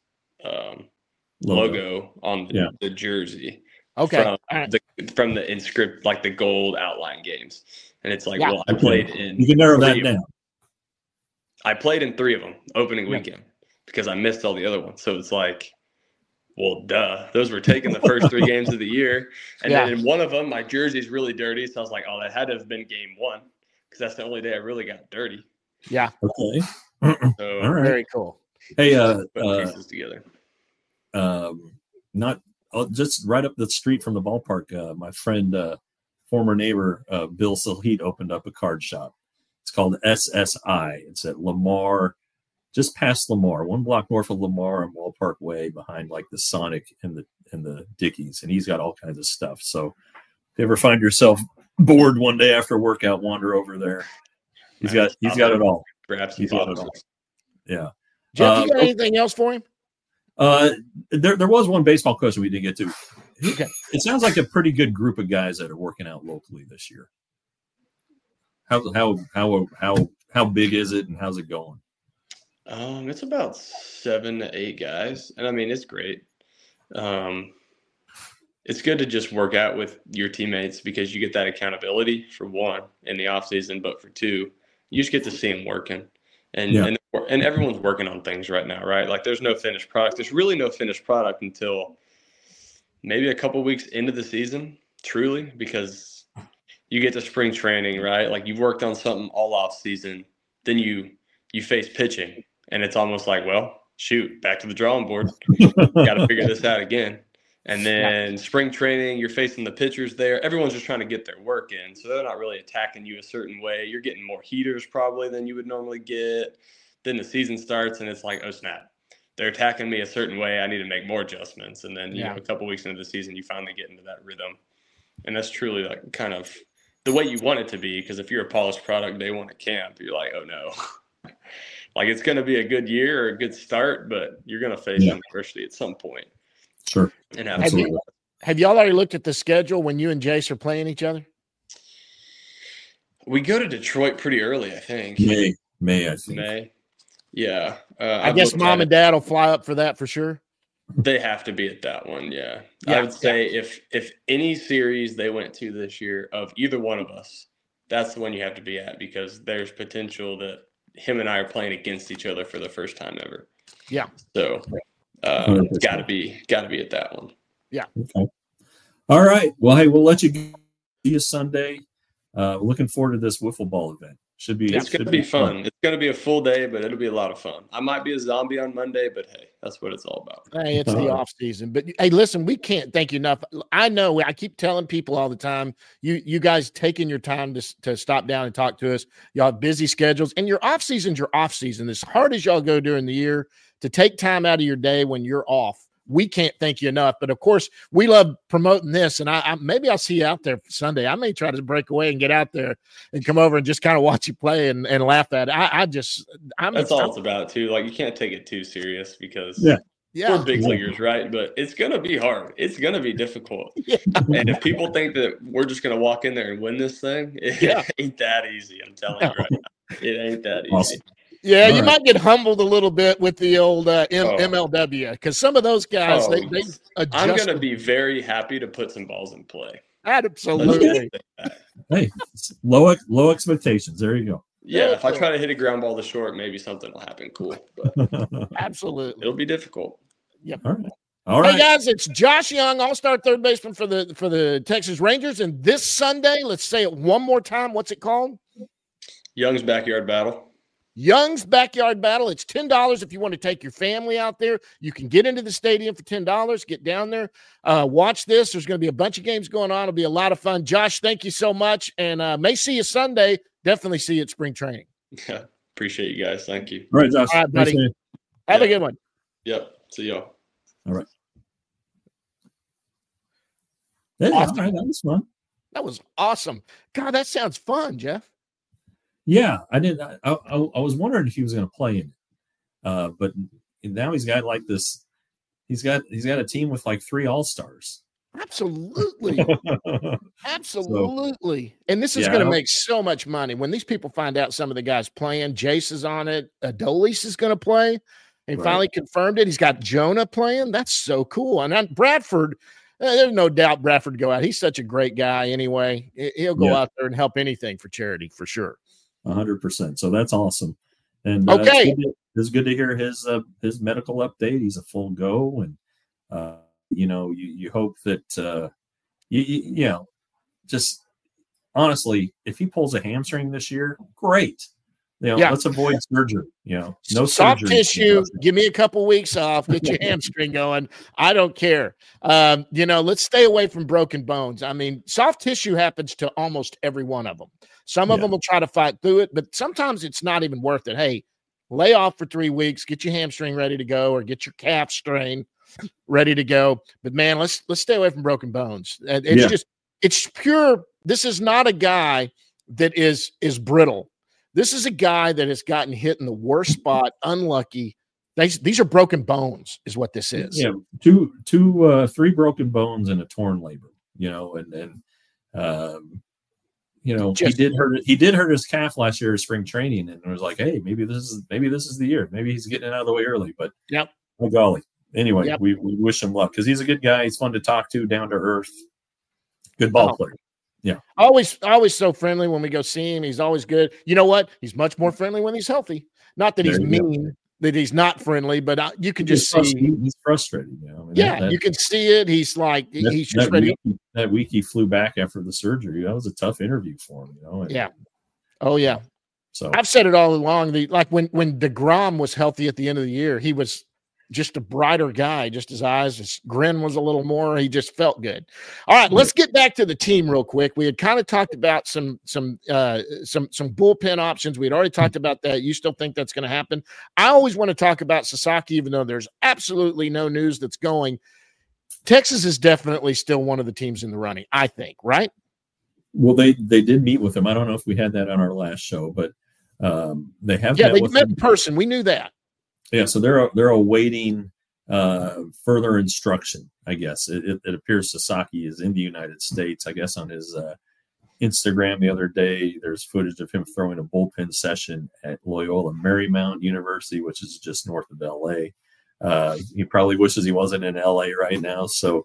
logo on the jersey. Okay. From the inscript, like the gold outline games. And it's like, well, I played in. You can narrow that down. I played in 3 of them opening weekend because I missed all the other ones. So it's like, well, duh. Those were taken the first 3 games of the year. And then in one of them, my jersey's really dirty. So I was like, oh, that had to have been game 1 because that's the only day I really got dirty. Yeah. Okay. So all right. Very cool. Hey, put pieces together. Just right up the street from the ballpark, my friend, former neighbor, Bill Silheat opened up a card shop. It's called SSI. It's at Lamar, just past Lamar, 1 block north of Lamar on Ballpark Way, behind like the Sonic and the Dickies, and he's got all kinds of stuff. So if you ever find yourself bored one day after workout, wander over there. He's got it all. Perhaps he's got it all. Yeah. Jeff, you got anything else for him? There was one baseball question we didn't get to. Okay. It sounds like a pretty good group of guys that are working out locally this year. How big is it and how's it going? It's about 7 to 8 guys, and I mean it's great. It's good to just work out with your teammates because you get that accountability for 1 in the off season, but for 2, you just get to see them working, and everyone's working on things right now, right? Like there's no finished product. There's really no finished product until maybe a couple weeks into the season, truly, because you get to spring training, right? Like you've worked on something all off season, then you face pitching, and it's almost like, well, shoot, back to the drawing board. Got to figure this out again. And then spring training, you're facing the pitchers there. Everyone's just trying to get their work in, so they're not really attacking you a certain way. You're getting more heaters probably than you would normally get. Then the season starts, and it's like, oh, snap. They're attacking me a certain way. I need to make more adjustments. And then, you know, a couple weeks into the season, you finally get into that rhythm. And that's truly like kind of the way you want it to be, because if you're a polished product day 1 at camp, you're like, oh, no. Like it's going to be a good year or a good start, but you're going to face adversity at some point. Sure. And have y'all already looked at the schedule when you and Jace are playing each other? We go to Detroit pretty early, I think. May, I think. May. Yeah. I guess mom and dad will fly up for that for sure. They have to be at that one, yeah. I would say if any series they went to this year of either one of us, that's the one you have to be at because there's potential that him and I are playing against each other for the first time ever. Yeah. So it's got to be at that one. Yeah. Okay. All right. Well, hey, we'll let you see you Sunday. Looking forward to this wiffle ball event. It's going to be fun. It's going to be a full day, but it'll be a lot of fun. I might be a zombie on Monday, but hey, that's what it's all about. Hey, it's the off season. But hey, listen, we can't thank you enough. I know I keep telling people all the time, you guys taking your time to stop down and talk to us. Y'all have busy schedules, and your off season's your off season. As hard as y'all go during the year, to take time out of your day when you're off. We can't thank you enough, but of course we love promoting this, and I maybe I'll see you out there Sunday. I may try to break away and get out there and come over and just kind of watch you play and laugh at it. That's all it's about too. Like you can't take it too serious because we're big leaguers, right? But it's gonna be hard. It's gonna be difficult. And if people think that we're just gonna walk in there and win this thing, it ain't that easy. I'm telling you right now, it ain't that easy. Awesome. Yeah, you might get humbled a little bit with the old MLW because some of those guys, they adjust. I'm going to be very happy to put some balls in play. Absolutely. Hey, low expectations. There you go. Yeah, if I try to hit a ground ball to short, maybe something will happen cool. But absolutely. It'll be difficult. Yep. All right. Hey, guys, it's Josh Young, all-star third baseman for the Texas Rangers. And this Sunday, let's say it one more time. What's it called? Young's Backyard Battle. Young's Backyard Battle. It's $10 if you want to take your family out there. You can get into the stadium for $10. Get down there. Watch this. There's going to be a bunch of games going on. It'll be a lot of fun. Josh, thank you so much. And may see you Sunday. Definitely see you at spring training. Yeah, appreciate you guys. Thank you. All right, Josh. All right, buddy. Nice. Have a good one. Yep. See y'all. All right. Yeah, awesome. All right, that was fun. That was awesome. God, that sounds fun, Jeff. Yeah, I did. I was wondering if he was going to play in it, but now he's got like this. He's got a team with like 3 all-stars. Absolutely, absolutely. And this is going to make so much money when these people find out some of the guys playing. Jace is on it. Adolis is going to play, and finally confirmed it. He's got Jonah playing. That's so cool. And Bradford. there's no doubt Bradford would go out. He's such a great guy anyway. He'll go out there and help anything for charity for sure. 100%. So that's awesome. And okay, it's good to hear his medical update. He's a full go, and you hope that you know, just honestly, if he pulls a hamstring this year, great. Let's avoid surgery. No soft surgery. Tissue. Give me a couple weeks off. Get your hamstring going. I don't care. Let's stay away from broken bones. I mean, soft tissue happens to almost every one of them. Some of them will try to fight through it, but sometimes it's not even worth it. Hey, lay off for 3 weeks. Get your hamstring ready to go, or get your calf strain ready to go. But man, let's stay away from broken bones. It's pure. This is not a guy that is brittle. This is a guy that has gotten hit in the worst spot, unlucky. These are broken bones, is what this is. Yeah, 3 broken bones and a torn labrum. He did hurt his calf last year at spring training, and it was like, hey, maybe this is the year. Maybe he's getting it out of the way early. But oh golly. Anyway, we wish him luck because he's a good guy. He's fun to talk to, down to earth, good ball player. Yeah. Always so friendly when we go see him. He's always good. You know what? He's much more friendly when he's healthy. Not that he's mean, that he's not friendly, but you can just see he's frustrated. You can see it. He's like, he's just ready. That week he flew back after the surgery. That was a tough interview for him. Oh yeah. So I've said it all along. When DeGrom was healthy at the end of the year, he was just a brighter guy. Just his eyes, his grin was a little more. He just felt good. All right, let's get back to the team real quick. We had kind of talked about some bullpen options. We had already talked about that. You still think that's going to happen? I always want to talk about Sasaki, even though there's absolutely no news that's going. Texas is definitely still one of the teams in the running, I think, right? Well, they did meet with him. I don't know if we had that on our last show, but they have. Yeah, they met in person. We knew that. Yeah, so they're awaiting further instruction. I guess it appears Sasaki is in the United States. I guess on his Instagram the other day, there's footage of him throwing a bullpen session at Loyola Marymount University, which is just north of LA. He probably wishes he wasn't in LA right now. So,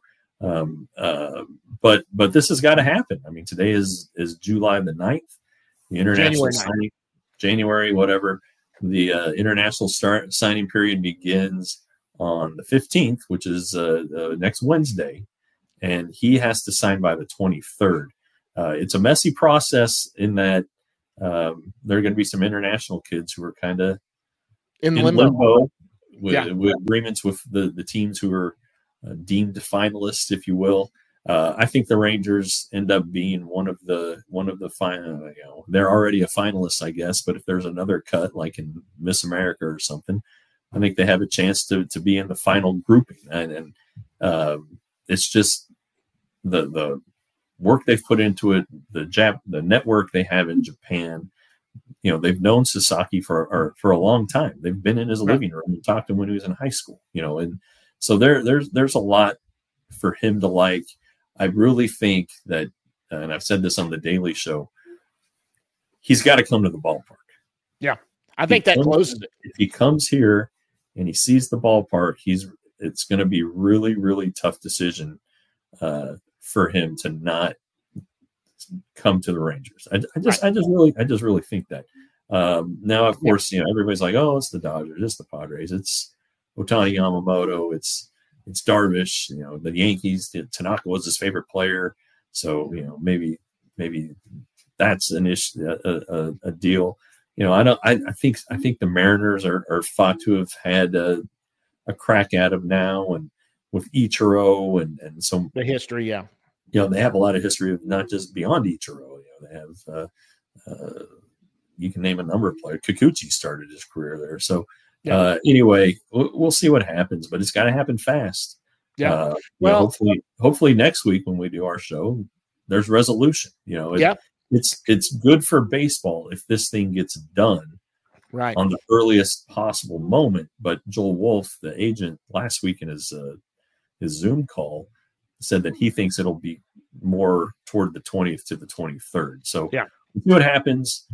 but this has got to happen. I mean, today is July the 9th, the international signing, January, whatever. The international signing period begins on the 15th, which is next Wednesday, and he has to sign by the 23rd. It's a messy process in that there are going to be some international kids who are kind of in limbo with agreements with the teams who are deemed finalists, if you will. I think the Rangers end up being one of the final. They're already a finalist, I guess. But if there's another cut, like in Miss America or something, I think they have a chance to be in the final grouping. And it's just the work they've put into it, the network they have in Japan. They've known Sasaki for a long time. They've been in his living room and talked to him when he was in high school. And so there's a lot for him to like. I really think that, and I've said this on the Daily Show, he's got to come to the ballpark. Yeah, I think that closes it. If he comes here and he sees the ballpark, it's going to be really, really tough decision for him to not come to the Rangers. I just really think that. Now, of course, everybody's like, oh, it's the Dodgers, it's the Padres, it's Ohtani Yamamoto, it's Darvish, the Yankees. Tanaka was his favorite player, so maybe that's an issue, a deal. I think the Mariners are thought to have had a crack at him now, and with Ichiro and some the history, they have a lot of history of not just beyond Ichiro. They have you can name a number of players. Kikuchi started his career there, so. Anyway, we'll see what happens, but it's got to happen fast. Hopefully next week when we do our show, there's resolution. It's good for baseball if this thing gets done on the earliest possible moment. But Joel Wolf, the agent, last week in his Zoom call, said that he thinks it'll be more toward the 20th to the 23rd. So we'll see what happens.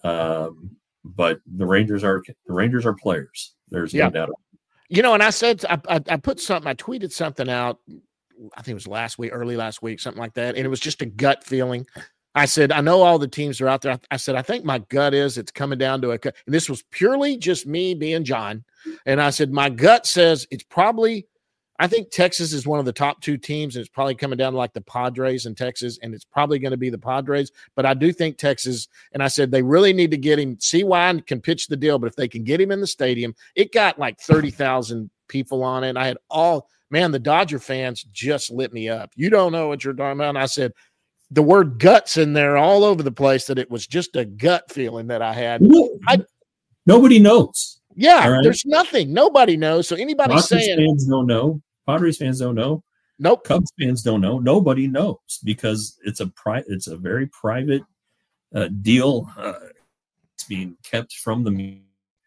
But the Rangers are players. There's no doubt. And I said I put something. I tweeted something out I think it was early last week, something like that. And it was just a gut feeling. I said, I know all the teams are out there. I said, I think my gut is it's coming down to and this was purely just me being John. And I said, my gut says it's probably, I think Texas is one of the top 2 teams, and it's probably coming down to like the Padres in Texas, and it's probably going to be the Padres. But I do think Texas, and I said they really need to get him. CY can pitch the deal, but if they can get him in the stadium, it got like 30,000 people on it. And I had the Dodger fans just lit me up. You don't know what you're talking about. And I said, the word guts in there all over the place, that it was just a gut feeling that I had. Nobody knows. Yeah, right? There's nothing. Nobody knows. So anybody saying fans don't know. Padres fans don't know. Nope. Cubs fans don't know. Nobody knows because it's a very private deal. It's being kept from the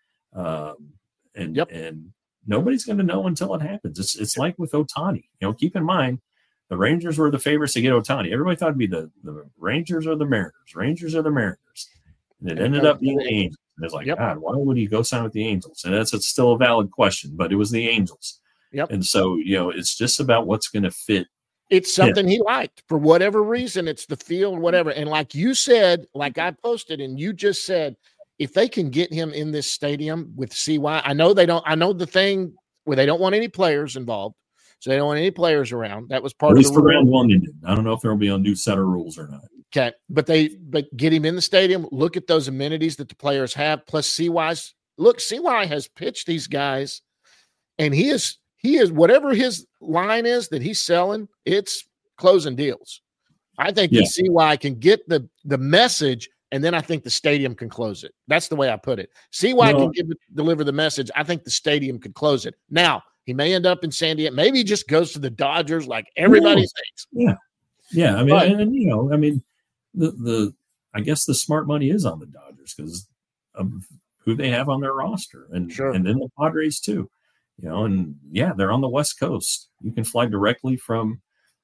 and nobody's going to know until it happens. It's like with Ohtani. Keep in mind, the Rangers were the favorites to get Ohtani. Everybody thought it'd be the Rangers or the Mariners. Rangers or the Mariners. And it ended up being the Angels. And it's like, God, why would he go sign with the Angels? And it's still a valid question, but it was the Angels. Yep. And so, it's just about what's going to fit. It's something he liked for whatever reason. It's the field, whatever. And like you said, like I posted, and you just said, if they can get him in this stadium with CY, I know the thing where they don't want any players involved. So they don't want any players around. That was part of the for round one. I don't know if there will be a new set of rules or not. Okay. But get him in the stadium. Look at those amenities that the players have. Plus CY's look, CY has pitched these guys, and he is whatever his line is that he's selling, it's closing deals. I think the CY can get the message, and then I think the stadium can close it. That's the way I put it. CY can deliver the message. I think the stadium could close it. Now, he may end up in San Diego. Maybe he just goes to the Dodgers like everybody thinks. Yeah. I mean, I guess the smart money is on the Dodgers because of who they have on their roster, and then the Padres too. And they're on the West Coast. You can fly directly from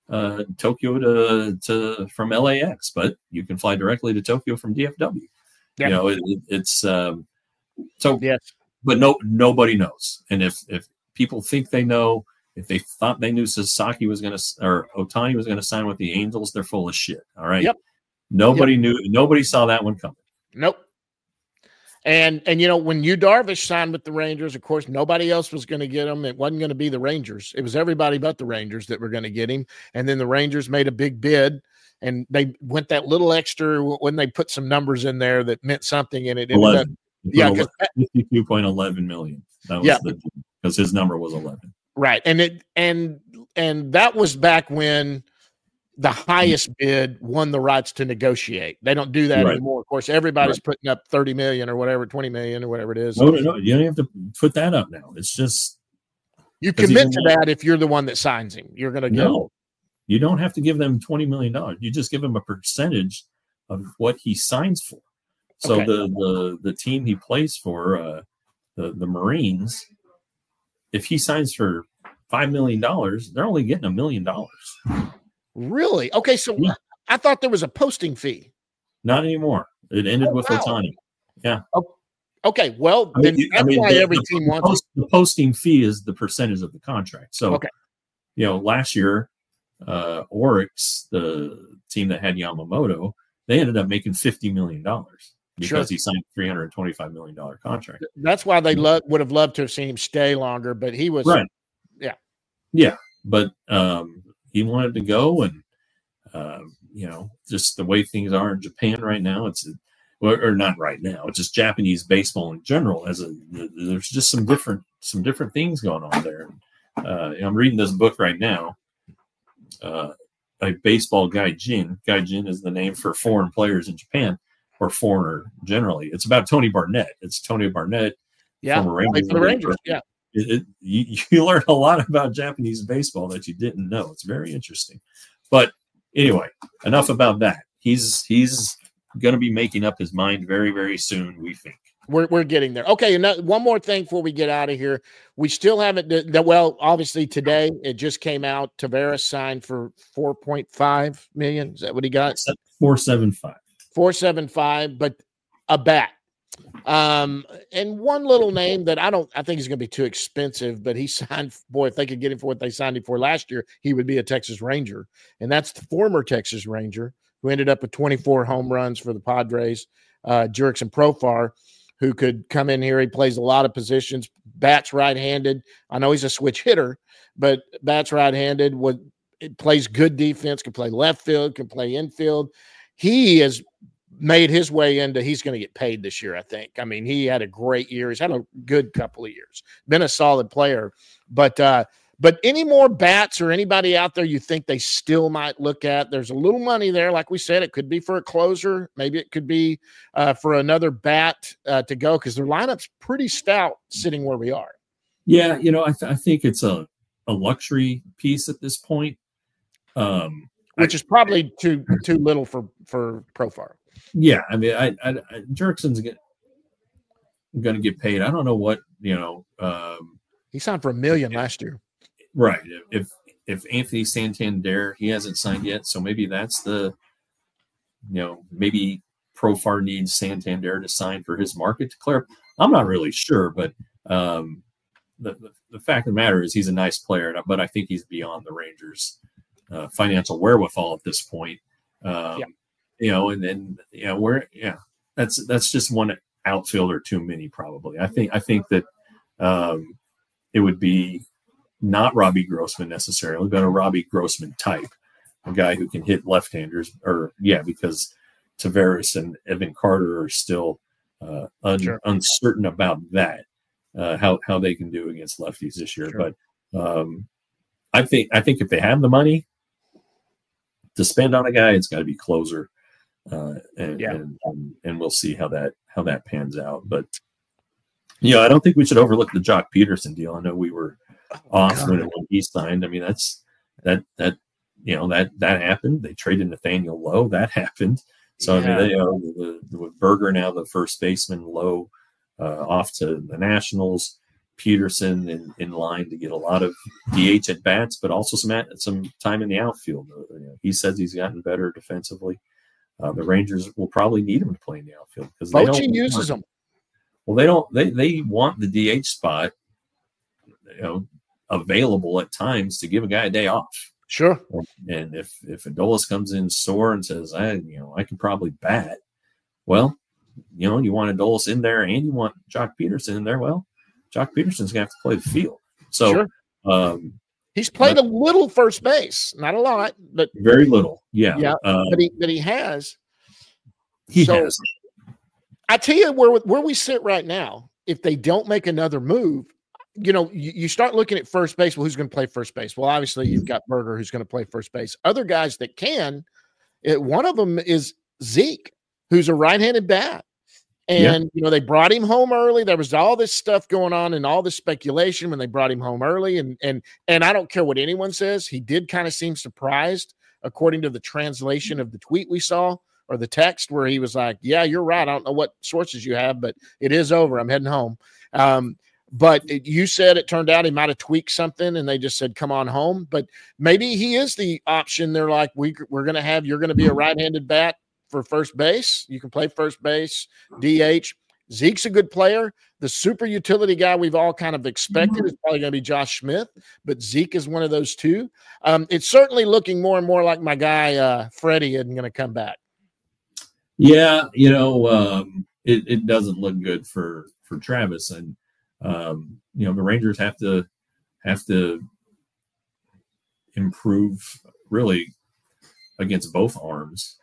Tokyo from LAX, but you can fly directly to Tokyo from DFW. Yeah. It's so. Yes. But nobody knows, and if people think they know, if they thought they knew Sasaki was going to, or Ohtani was going to sign with the Angels, they're full of shit. All right. Yep. Nobody knew. Nobody saw that one coming. Nope. And when Yu Darvish signed with the Rangers, of course, nobody else was going to get him. It wasn't going to be the Rangers. It was everybody but the Rangers that were going to get him. And then the Rangers made a big bid, and they went that little extra when they put some numbers in there that meant something. And it ended up, $52.11 million. That was because his number was 11. Right. And that was back when the highest bid won the rights to negotiate. They don't do that anymore. Of course, everybody's putting up 30 million or whatever, 20 million or whatever it is. No, you don't have to put that up now. It's just you commit to that if you're the one that signs him. You're going to go. No, you don't have to give them $20 million. You just give him a percentage of what he signs for. So the team he plays for, the Marines, if he signs for $5 million, they're only getting $1 million. Really? Okay, so I thought there was a posting fee. Not anymore. It ended with Ohtani. Yeah. Okay, well, that's why every team wants it. The posting fee is the percentage of the contract. So, last year, Oryx, the team that had Yamamoto, they ended up making $50 million because he signed a $325 million contract. That's why they would have loved to have seen him stay longer, but he was right. Yeah, but he wanted to go, and just the way things are in Japan right now, or not right now, it's just Japanese baseball in general. There's just some different things going on there. I'm reading this book right now. A baseball gaijin. Gaijin is the name for foreign players in Japan, or foreigner generally. It's about Tony Barnett. It's Tony Barnett. Yeah, for the Rangers. Yeah. You learn a lot about Japanese baseball that you didn't know. It's very interesting. But anyway, enough about that. He's going to be making up his mind very, very soon, we think. We're getting there. Okay, and one more thing before we get out of here. We still haven't obviously today it just came out. Tavares signed for $4.5 million. Is that what he got? 4.75. 4.75, but a bat. And one little name that I think he's going to be too expensive, but he signed, boy, if they could get him for what they signed him for last year, he would be a Texas Ranger. And that's the former Texas Ranger who ended up with 24 home runs for the Padres, Jurickson Profar, who could come in here. He plays a lot of positions, bats right-handed. I know he's a switch hitter, but bats right-handed, plays good defense, can play left field, can play infield. He has made his way into, he's going to get paid this year, I think. I mean, he had a great year. He's had a good couple of years, been a solid player. But any more bats or anybody out there you think they still might look at? There's a little money there. Like we said, it could be for a closer. Maybe it could be for another bat to go, because their lineup's pretty stout sitting where we are. Yeah, I think it's a luxury piece at this point. Which is probably too little for Profar. Yeah, I mean, Jurickson's going to get paid. I don't know what he signed for $1 million last year. Right. If Anthony Santander, he hasn't signed yet, so maybe that's maybe Profar needs Santander to sign for his market to clear up. I'm not really sure, but the fact of the matter is he's a nice player, but I think he's beyond the Rangers' financial wherewithal at this point. That's just one outfielder too many, probably. I think that it would be not Robbie Grossman necessarily, but a Robbie Grossman type, a guy who can hit left-handers, because Taveras and Evan Carter are still uncertain about that, how they can do against lefties this year. Sure. But I think if they have the money to spend on a guy, it's got to be closer, and we'll see how that pans out. But I don't think we should overlook the Jock Peterson deal. I know we were off when he signed. I mean, that happened. They traded Nathaniel Lowe. That happened. So I mean, with Berger now the first baseman, Lowe off to the Nationals. Peterson in line to get a lot of DH at bats, but also some time in the outfield. He says he's gotten better defensively. The Rangers will probably need him to play in the outfield because Bochy uses them. Well, they want the DH spot, available at times to give a guy a day off. Sure. And if Adolis comes in sore and says, I can probably bat, well, you want Adolis in there and you want Jock Peterson in there. Well, Jock Peterson's going to have to play the field. So he's played a little first base, not a lot, but very little. Yeah. Yeah. But he has. He has. I tell you where we sit right now, if they don't make another move, you start looking at first base. Well, who's going to play first base? Well, obviously you've got Berger who's going to play first base. Other guys that can, one of them is Zeke, who's a right-handed bat. And, they brought him home early. There was all this stuff going on and all this speculation when they brought him home early. And I don't care what anyone says. He did kind of seem surprised, according to the translation of the tweet we saw or the text, where he was like, yeah, you're right. I don't know what sources you have, but it is over. I'm heading home. But you said it turned out he might have tweaked something and they just said, come on home. But maybe he is the option. They're like, you're going to be a right-handed bat for first base. You can play first base, DH. Zeke's a good player. The super utility guy we've all kind of expected is probably going to be Josh Smith, but Zeke is one of those two. It's certainly looking more and more like my guy Freddie isn't going to come back. Yeah, it doesn't look good for Travis, and the Rangers have to improve really against both arms.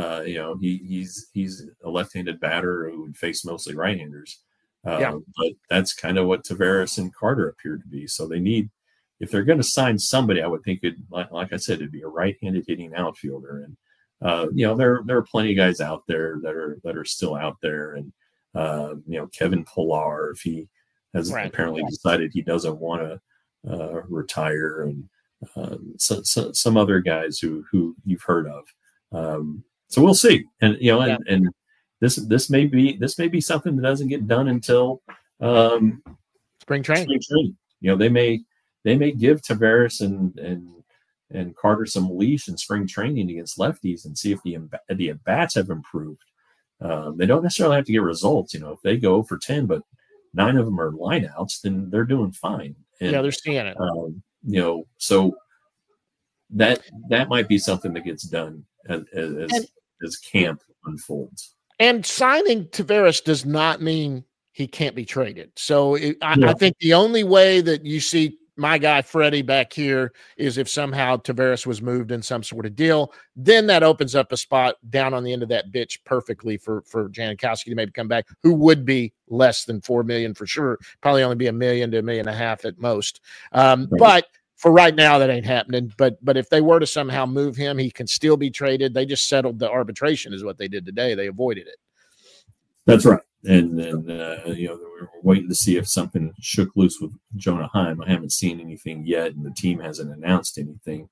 He's a left-handed batter who would face mostly right-handers. But that's kind of what Taveras and Carter appear to be. So they need, if they're going to sign somebody, I would think like I said, it'd be a right-handed hitting outfielder. And there are plenty of guys out there that are still out there. And Kevin Pillar, if he has apparently decided he doesn't want to retire, and some other guys who you've heard of. So we'll see, and and this may be something that doesn't get done until spring training. They may give Taveras and Carter some leash in spring training against lefties and see if the at-bats have improved. They don't necessarily have to get results. If they go for 10, but 9 of them are lineouts, then they're doing fine. And, yeah, they're seeing it. So that might be something that gets done as camp unfolds. And signing Tavares does not mean he can't be traded. So I think the only way that you see my guy Freddie back here is if somehow Tavares was moved in some sort of deal. Then that opens up a spot down on the end of that bitch perfectly for Janikowski to maybe come back, who would be less than $4 million for sure. Probably only be $1 million to $1.5 million at most. But for right now, that ain't happening. But if they were to somehow move him, he can still be traded. They just settled the arbitration is what they did today. They avoided it. That's right. And then, we're waiting to see if something shook loose with Jonah Heim. I haven't seen anything yet, and the team hasn't announced anything.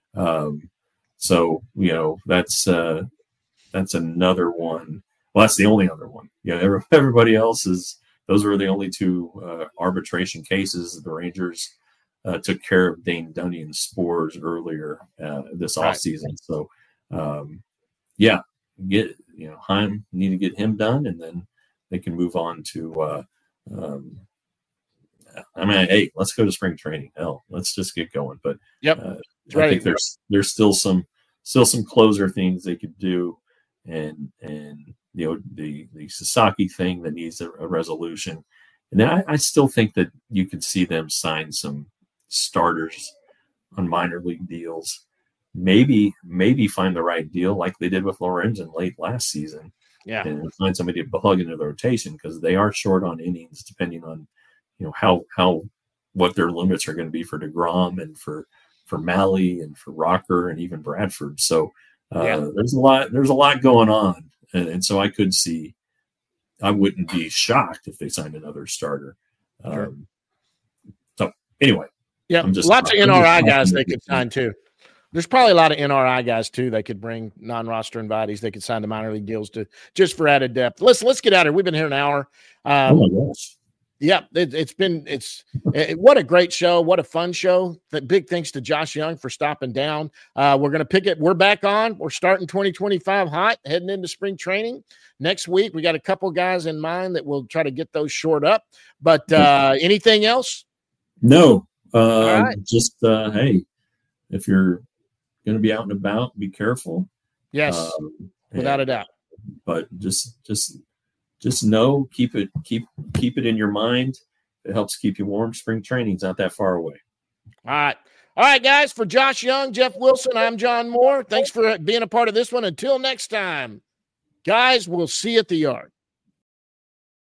So that's another one. Well, that's the only other one. Everybody else those were the only 2 arbitration cases. The Rangers took care of Dane Dunning and Spores earlier this offseason. So, Heim need to get him done, and then they can move on to. Hey, let's go to spring training. Hell, let's just get going. But I think there's still some closer things they could do, and the Sasaki thing that needs a resolution. And I still think that you could see them sign some starters on minor league deals. Maybe find the right deal like they did with Lorenzen late last season. Yeah, and find somebody to plug into the rotation because they are short on innings depending on what their limits are going to be for DeGrom and for Malley and for Rocker and even Bradford. So there's a lot going on, and so I wouldn't be shocked if they signed another starter. Sure. So anyway, lots of NRI guys they could sign too. There's probably a lot of NRI guys too. They could bring non-roster invitees. They could sign the minor league deals just for added depth. Let's get out of here. We've been here an hour. Oh my gosh. Yeah, what a great show. What a fun show. Big thanks to Josh Jung for stopping down. We're going to pick it. We're back on. We're starting 2025 hot, heading into spring training. Next week, we got a couple guys in mind that we'll try to get those short up. But anything else? No. All right. Just, hey, if you're going to be out and about, be careful. Yes, without a doubt. But just know, keep it in your mind. It helps keep you warm. Spring training's not that far away. All right, guys. For Josh Jung, Jeff Wilson, I'm John Moore. Thanks for being a part of this one. Until next time, guys, we'll see you at the yard.